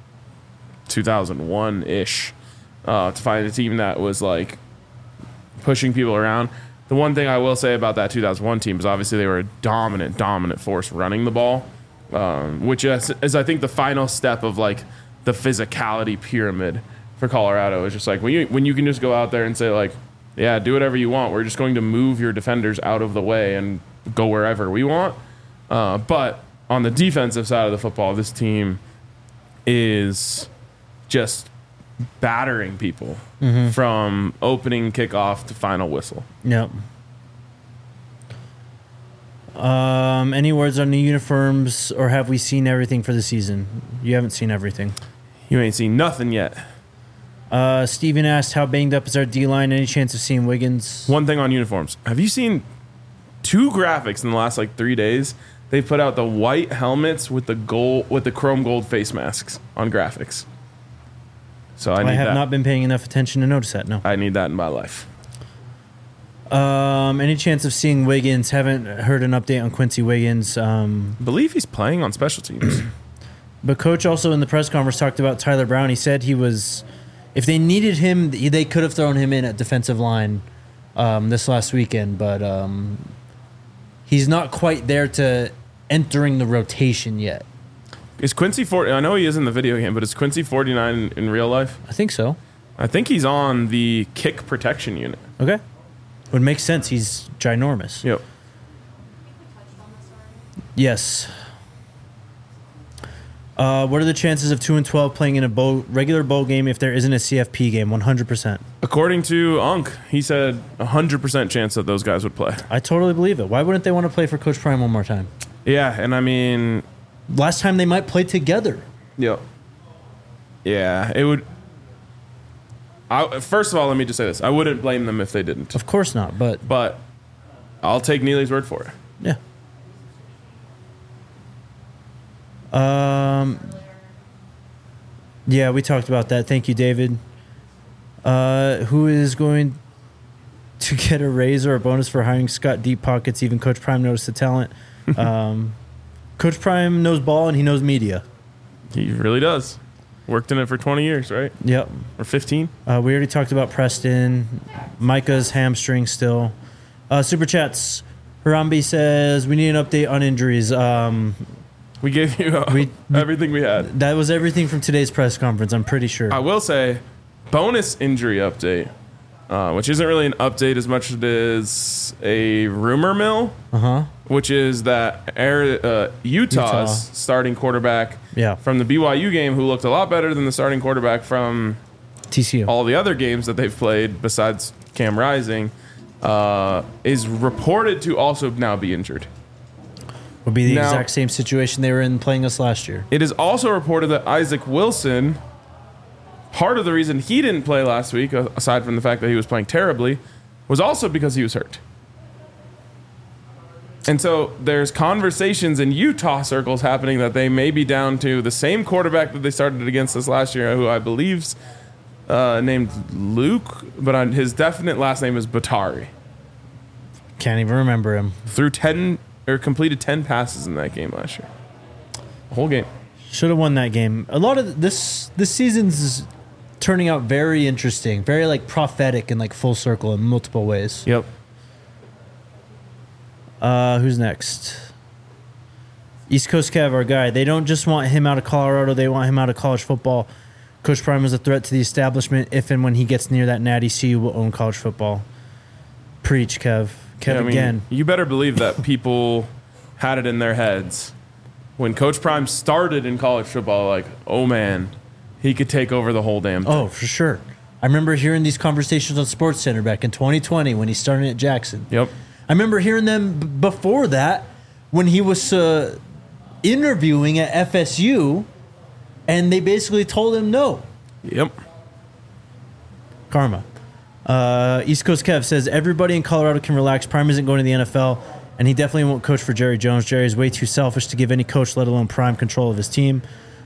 2001-ish to find a team that was like pushing people around. The one thing I will say about that 2001 team is obviously they were a dominant force running the ball, which is I think the final step of like the physicality pyramid for Colorado. It's just like when you can just go out there and say like, yeah, do whatever you want. We're just going to move your defenders out of the way and go wherever we want. But on the defensive side of the football, this team is just battering people from opening kickoff to final whistle. Yep. Any words on new uniforms, or have we seen everything for the season? You haven't seen everything. You ain't seen nothing yet. Steven asked, how banged up is our D-line? Any chance of seeing Wiggins? One thing on uniforms. Have you seen 2 graphics in the last like 3 days? They put out the white helmets with the chrome gold face masks on graphics. So I have not been paying enough attention to notice that. No, I need that in my life. Any chance of seeing Wiggins? Haven't heard an update on Quincy Wiggins. Believe he's playing on special teams. But coach also in the press conference talked about Tyler Brown. He said he was, if they needed him, they could have thrown him in at defensive line this last weekend. But he's not quite there to entering the rotation yet. Is Quincy I know he is in the video game, but is Quincy 49 in real life? I think so. I think he's on the kick protection unit. Okay. Would make sense. He's ginormous. Yep. Yes. What are the chances of 2-12 playing in a regular bowl game if there isn't a CFP game? 100%. According to Unk, he said 100% chance that those guys would play. I totally believe it. Why wouldn't they want to play for Coach Prime one more time? Yeah, and I mean, last time they might play together. Yep. Yeah, it would. First of all, let me just say this. I wouldn't blame them if they didn't. Of course not, but I'll take Neely's word for it. Yeah. Yeah, we talked about that. Thank you, David. Who is going to get a raise or a bonus for hiring Scott Deep Pockets? Even Coach Prime noticed the talent. Coach Prime knows ball and he knows media. He really does. Worked in it for 20 years, right? Yep. Or 15. We already talked about Preston. Micah's hamstring still. Super Chats. Harambe says, we need an update on injuries. We gave you everything we had. That was everything from today's press conference, I'm pretty sure. I will say, bonus injury update, which isn't really an update as much as it is a rumor mill, which is that Utah's starting quarterback from the BYU game, who looked a lot better than the starting quarterback from TCU, all the other games that they've played besides Cam Rising, is reported to also now be injured. Would be the exact same situation they were in playing us last year. It is also reported that Isaac Wilson, part of the reason he didn't play last week, aside from the fact that he was playing terribly, was also because he was hurt. And so there's conversations in Utah circles happening that they may be down to the same quarterback that they started against us last year, who I believe's named Luke, but his definite last name is Batari. Can't even remember him. Completed 10 passes in that game last year. The whole game. Should have won that game. A lot of this season's turning out very interesting, very like prophetic and like full circle in multiple ways. Yep. Who's next? East Coast Kev, our guy. They don't just want him out of Colorado, they want him out of college football. Coach Prime is a threat to the establishment. If and when he gets near that natty, CU will own college football. Preach, Kev. Again. You better believe that people had it in their heads when Coach Prime started in college football, like, oh man, he could take over the whole damn thing. Oh, for sure. I remember hearing these conversations on SportsCenter back in 2020 when he started at Jackson. Yep. I remember hearing them before that when he was interviewing at FSU, and they basically told him no. Yep. Karma. East Coast Kev says, everybody in Colorado can relax. Prime isn't going to the NFL, and he definitely won't coach for Jerry Jones. Jerry is way too selfish to give any coach, let alone Prime, control of his team.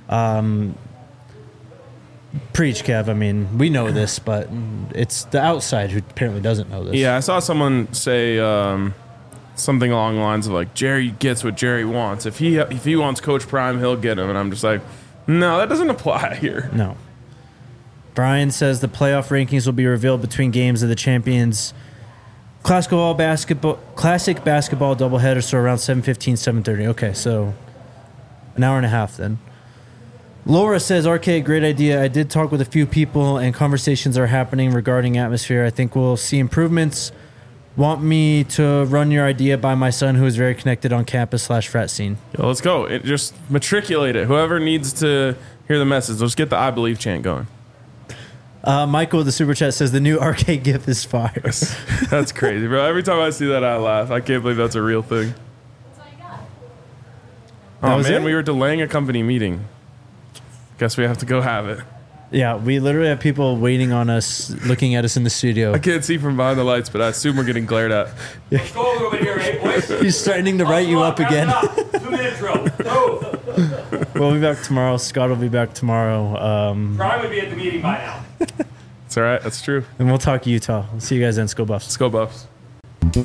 Preach, Kev. I mean, we know this, but it's the outside who apparently doesn't know this. Yeah, I saw someone say something along the lines of like, Jerry gets what Jerry wants. If he wants Coach Prime, he'll get him. And I'm just like, no, that doesn't apply here. No. Brian says the playoff rankings will be revealed between games of the Champions Classic basketball doubleheader, so around 7:15, 7:30. Okay, so an hour and a half then. Laura says, RK, great idea. I did talk with a few people and conversations are happening regarding atmosphere. I think we'll see improvements. Want me to run your idea by my son who is very connected on campus / frat scene? Yo, let's go. Just matriculate it. Whoever needs to hear the message, let's get the I Believe chant going. Michael, the super chat, says the new RK GIF is fire. That's crazy, bro. Every time I see that, I laugh. I can't believe that's a real thing. That's all you got. Oh, man, we were delaying a company meeting. Guess we have to go have it. Yeah, we literally have people waiting on us, looking at us in the studio. I can't see from behind the lights, but I assume we're getting glared at. Let's go a little bit here, eh, boys? He's threatening to write you up again. 2-minute drill. Move. We'll be back tomorrow. Scott will be back tomorrow. Brian would be at the meeting by now. It's all right. That's true. And we'll talk Utah. We'll see you guys then. Let's go Buffs. Let's go Buffs. We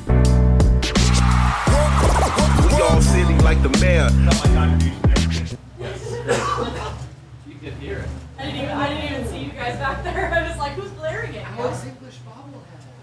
all sitting like the mayor. You can hear it. I didn't even see you guys back there. I was like, who's blaring it? How's English bobblehead?